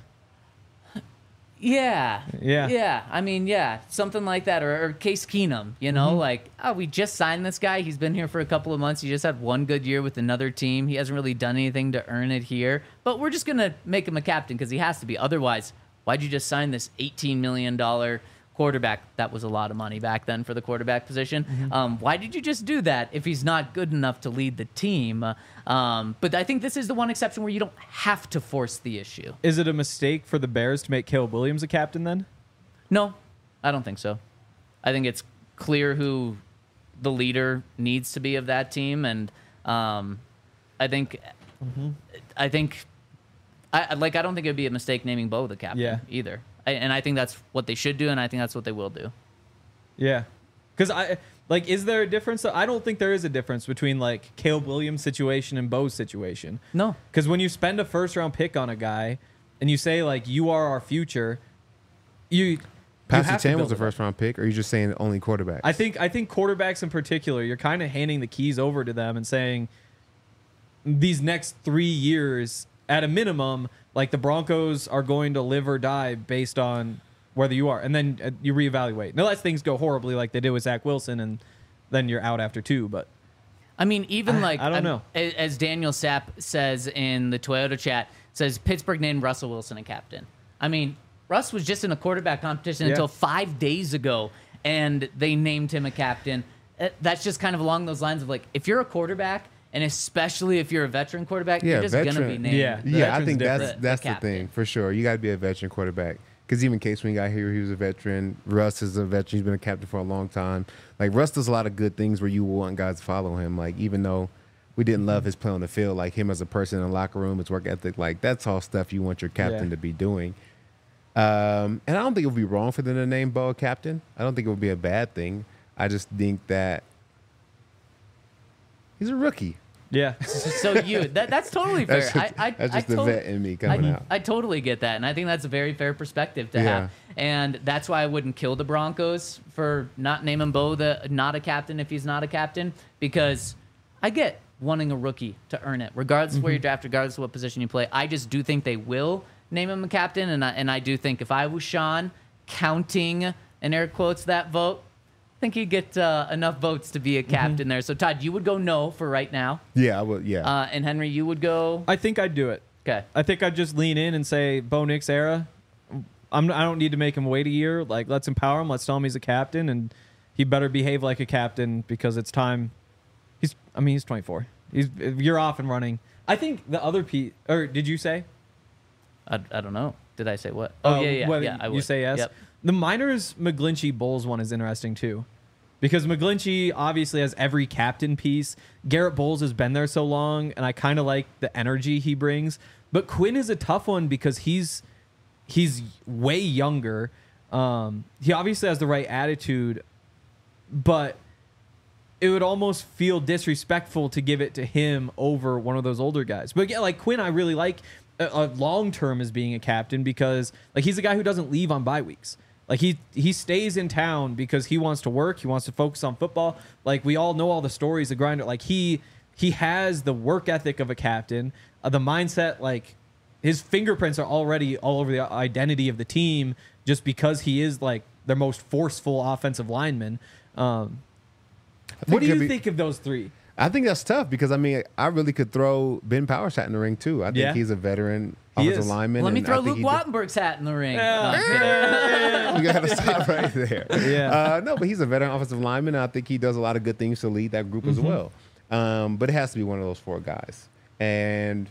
yeah, Yeah. yeah. I mean, yeah, something like that, or, or Case Keenum. You know, Mm-hmm. like, oh, we just signed this guy. He's been here for a couple of months. He just had one good year with another team. He hasn't really done anything to earn it here, but we're just gonna make him a captain because he has to be. Otherwise, why'd you just sign this eighteen million dollars quarterback? That was a lot of money back then for the quarterback position. Mm-hmm. Um, why did you just do that if he's not good enough to lead the team? Uh, um, but I think this is the one exception where you don't have to force the issue. Is it a mistake for the Bears to make Caleb Williams a captain then? No, I don't think so. I think it's clear who the leader needs to be of that team, and um, I think, mm-hmm. I think, I like. I don't think it would be a mistake naming Bo the captain Yeah. either. I, and I think that's what they should do, and I think that's what they will do. Yeah, because I like. Is there a difference? I don't think there is a difference between like Caleb Williams' situation and Bo's situation. No, because when you spend a first round pick on a guy and you say like you are our future, you. Pastor Chan was a first round pick, or are you just saying only quarterbacks? I think I think quarterbacks in particular, you're kind of handing the keys over to them and saying these next three years, at a minimum, like the Broncos are going to live or die based on whether you are, and then uh, you reevaluate. Unless things go horribly, like they did with Zach Wilson, and then you're out after two. But I mean, even I, like I don't I'm- know. a- as Daniel Sapp says in the Toyota chat, says Pittsburgh named Russell Wilson a captain. I mean, Russ was just in a quarterback competition Yeah. until five days ago, and they named him a captain. Uh, That's just kind of along those lines of like, if you're a quarterback, and especially if you're a veteran quarterback, Yeah, you're just gonna be veteran. named. Yeah. the- Yeah, I veteran's think that's different. that's The the, captain. thing for sure. You got to be a veteran quarterback. Because even Case when he got here, he was a veteran. Russ is a veteran. He's been a captain for a long time. Like Russ does a lot of good things where you want guys to follow him. Like even though we didn't love his play on the field, like him as a person in the locker room, his work ethic, like that's all stuff you want your captain Yeah. to be doing. Um, and I don't think it would be wrong for them to name Bo a captain. I don't think it would be a bad thing. I just think that he's a rookie. yeah, So you, that, that's totally fair. That's just, I, I, that's I just the tot- vet in me coming I, out. I totally get that, and I think that's a very fair perspective to Yeah. have. And that's why I wouldn't kill the Broncos for not naming Bo the not a captain if he's not a captain, because I get wanting a rookie to earn it, regardless of where you're drafted, regardless of what position you play. I just do think they will name him a captain, and I, and I do think if I was Sean, counting in air quotes that vote, I think he'd get uh, enough votes to be a captain there. So Todd, you would go no for right now, Yeah, I would. Yeah. uh, and Henry, you would go I think I'd do it. okay. I think I'd just lean in and say Bo Nix era. I'm, I don't need to make him wait a year. Like, let's empower him. Let's tell him he's a captain, and he better behave like a captain because it's time. He's, I mean, he's twenty-four. He's you're off and running. I think the other Pete, or did you say? I, I don't know. Did I say what? Oh Uh, yeah, yeah, whether yeah. I you would. say yes. Yep. The Miners McGlinchey Bowles one is interesting too, because McGlinchey obviously has every captain piece. Garrett Bowles has been there so long, and I kind of like the energy he brings. But Quinn is a tough one because he's he's way younger. Um, he obviously has the right attitude, but it would almost feel disrespectful to give it to him over one of those older guys. But yeah, like Quinn, I really like a, a long term as being a captain because like he's a guy who doesn't leave on bye weeks. Like he he stays in town because he wants to work. He wants to focus on football. Like we all know all the stories of Grinder. Like he he has the work ethic of a captain, uh, the mindset. Like his fingerprints are already all over the identity of the team just because he is like their most forceful offensive lineman. Um, what do it could you be- think of those three? I think that's tough because I mean I really could throw Ben Powers hat in the ring too. I think Yeah. he's a veteran He offensive is. lineman. Let me and throw I think Luke he did- Wattenberg's hat in the ring. Yeah. No, I'm kidding. We gotta stop right there. Yeah. Uh, no, but he's a veteran offensive lineman, and I think he does a lot of good things to lead that group as Mm-hmm. well. Um, but it has to be one of those four guys. And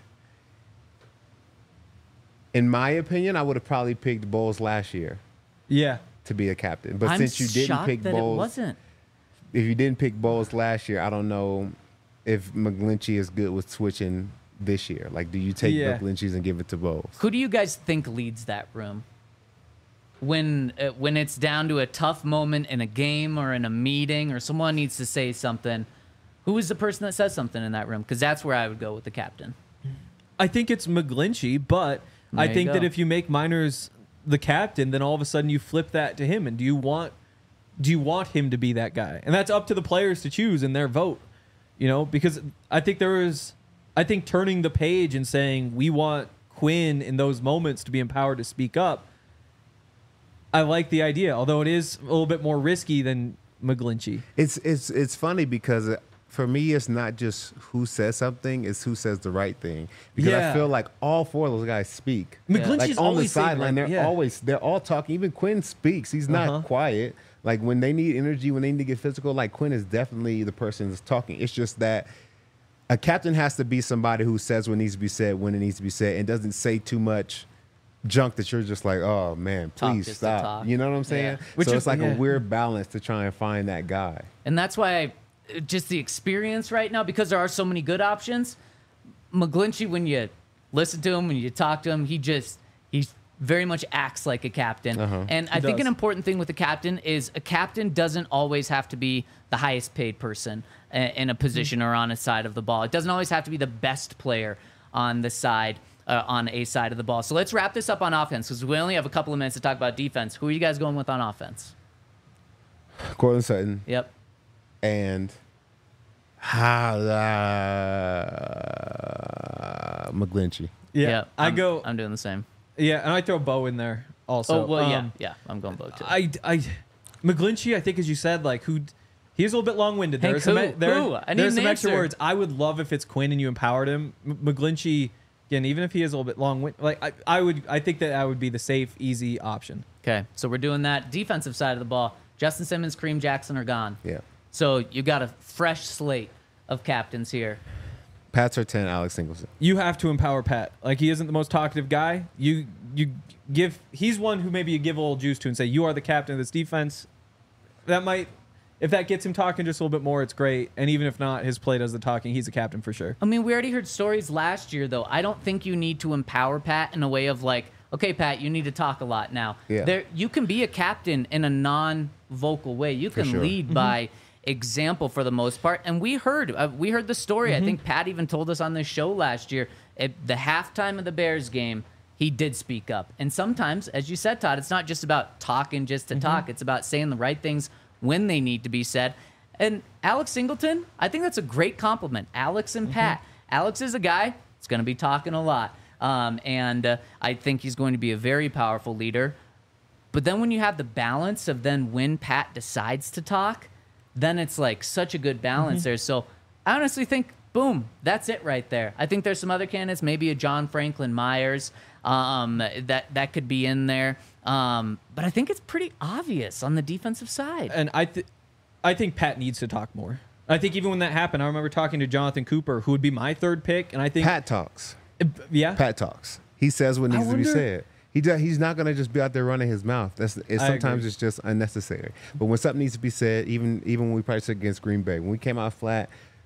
in my opinion, I would have probably picked Bowles last year Yeah. to be a captain. But I'm since you didn't shocked pick that Bowles, it wasn't. if you didn't pick Bowles last year, I don't know if McGlinchey is good with switching this year. Like, do you take Yeah. McGlinchey's and give it to Bowles? Who do you guys think leads that room? When uh, when it's down to a tough moment in a game or in a meeting or someone needs to say something, who is the person that says something in that room? Because that's where I would go with the captain. I think it's McGlinchey, but I There you think that go. if you make Miners the captain, then all of a sudden you flip that to him. And do you want do you want him to be that guy? And that's up to the players to choose in their vote. You know, because I think there is I think turning the page and saying we want Quinn in those moments to be empowered to speak up. I like the idea, although it is a little bit more risky than McGlinchey. It's it's it's funny because uh, for me, it's not just who says something; it's who says the right thing. Because Yeah. I feel like all four of those guys speak. McGlinchey's Like on the always saying, sideline, like, they're yeah. always they're all talking. Even Quinn speaks; he's not Uh-huh. quiet. Like when they need energy, when they need to get physical, like Quinn is definitely the person that's talking. It's just that a captain has to be somebody who says what needs to be said when it needs to be said, and doesn't say too much junk that you're just like, oh man, Talk please just to stop. talk. You know what I'm saying? Yeah. Which so is- it's like yeah. a weird balance to try and find that guy. And that's why I, just the experience right now, because there are so many good options. McGlinchey, when you listen to him, when you talk to him, he just he very much acts like a captain. Uh-huh. And I He think does. an important thing with a captain is a captain doesn't always have to be the highest paid person uh, in a position or on a side of the ball. It doesn't always have to be the best player on the side. Uh, on a side of the ball. So let's wrap this up on offense because we only have a couple of minutes to talk about defense. Who are you guys going with on offense? Cortland Sutton Yep. and uh, McGlinchey. Yeah, Yep. I I'm- go. I'm doing the same. Yeah, and I throw Bo in there also. Oh well, yeah, Um, yeah. I'm going Bo too. I, I, McGlinchey, I think, as you said, like who, he's a little bit long-winded. Hank, There's some, who? there, Who? I need there's an some extra answer. words. I would love if it's Quinn and you empowered him. M- McGlinchey, again, even if he is a little bit long-winded, like I, I would, I think that that would be the safe, easy option. Okay, so we're doing that defensive side of the ball. Justin Simmons, Kareem Jackson are gone. Yeah. So you got a fresh slate of captains here. Pat Surtain, Alex Singleton. You have to empower Pat. Like he isn't the most talkative guy. You, you give. He's one who maybe you give a little juice to and say you are the captain of this defense. That might. If that gets him talking just a little bit more, it's great. And even if not, his play does the talking. He's a captain for sure. I mean, we already heard stories last year, though. I don't think you need to empower Pat in a way of like, okay, Pat, you need to talk a lot now. Yeah. There, you can be a captain in a non-vocal way. You can sure. lead by example for the most part. And we heard, uh, we heard the story. I think Pat even told us on this show last year. At the halftime of the Bears game, he did speak up. And sometimes, as you said, Todd, it's not just about talking just to talk. It's about saying the right things when they need to be said. And Alex Singleton, I think that's a great compliment. Alex and Pat. Alex is a guy that's going to be talking a lot. Um, and uh, I think he's going to be a very powerful leader. But then when you have the balance of then when Pat decides to talk, then it's like such a good balance there. So I honestly think, boom, that's it right there. I think there's some other candidates, maybe a John Franklin Myers um, that, that could be in there. Um, but I think it's pretty obvious on the defensive side. And I, th- I think Pat needs to talk more. I think even when that happened, I remember talking to Jonathan Cooper, who would be my third pick, and I think Pat talks. yeah, Pat talks. He says what I needs to be wonder- said. He does, he's not going to just be out there running his mouth. That's it's, I sometimes agree. it's just unnecessary. But when something needs to be said, even even when we practiced against Green Bay, when we came out flat,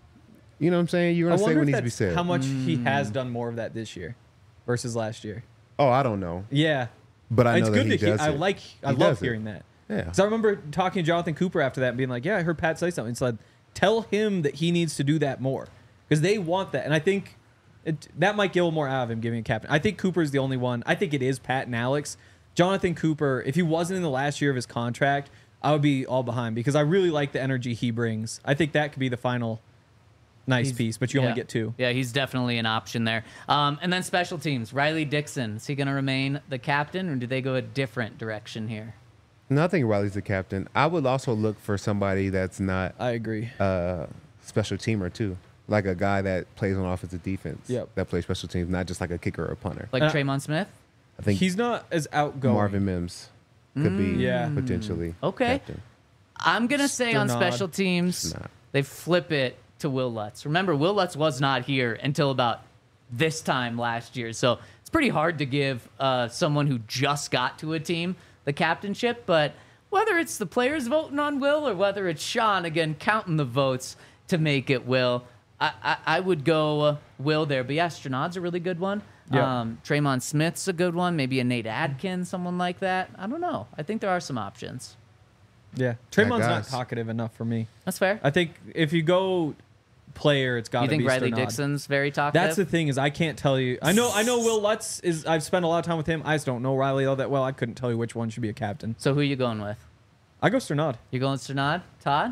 you know what I'm saying? You're I going to say wonder what if needs to be that's said. how much he has done more of that this year versus last year. Oh, I don't know. Yeah, But I it's know good that he to hear. does I it. like. I He love does it. hearing that. Yeah. Because I remember talking to Jonathan Cooper after that and being like, "Yeah, I heard Pat say something." It's like, tell him that he needs to do that more because they want that, and I think it, that might get a little more out of him giving a captain. I think Cooper's the only one. I think it is Pat and Alex. Jonathan Cooper, if he wasn't in the last year of his contract, I would be all behind because I really like the energy he brings. I think that could be the final nice He's- piece, but you yeah. only get two. Yeah, he's definitely an option there. Um, and then special teams. Riley Dixon, is he going to remain the captain, or do they go a different direction here? No, I think Riley's the captain. I would also look for somebody that's not I agree. a special teamer too, like a guy that plays on offensive defense. Yep. That plays special teams, not just like a kicker or a punter. Like Uh, Traymon Smith? I think He's not as outgoing. Marvin Mims could be Yeah. potentially Okay. captain. I'm going to say on Sternad. special teams, Sternad. they flip it to Will Lutz. Remember, Will Lutz was not here until about this time last year. So it's pretty hard to give uh, someone who just got to a team the captainship. But whether it's the players voting on Will or whether it's Sean, again, counting the votes to make it Will, I, I, I would go uh, Will there. But yeah, Sternad's a really good one. Yeah. Um, Traymon Smith's a good one. Maybe a Nate Adkins, someone like that. I don't know. I think there are some options. Yeah, Traymon's not guys. talkative enough for me. That's fair. I think if you go player, it's got to You be think Riley Sternad. Dixon's very talkative? That's the thing is I can't tell you. I know I know Will Lutz is. I've spent a lot of time with him. I just don't know Riley all that well. I couldn't tell you which one should be a captain. So who are you going with? I go Sternad. You going Sternad? Todd?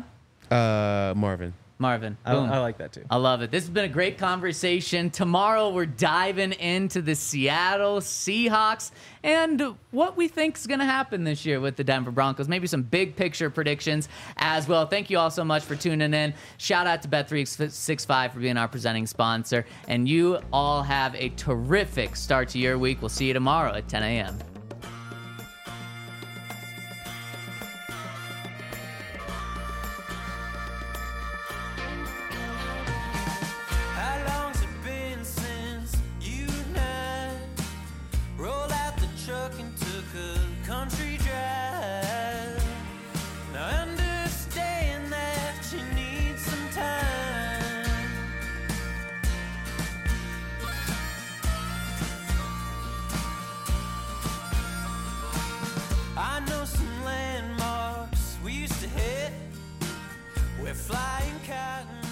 Uh, Marvin. Marvin. I, Boom. I like that too. I love it. This has been a great conversation. Tomorrow we're diving into the Seattle Seahawks and what we think is going to happen this year with the Denver Broncos. Maybe some big picture predictions as well. Thank you all so much for tuning in. Shout out to Bet three sixty-five for being our presenting sponsor. And you all have a terrific start to your week. We'll see you tomorrow at ten a.m. How long's it been since you and I rolled out the cotton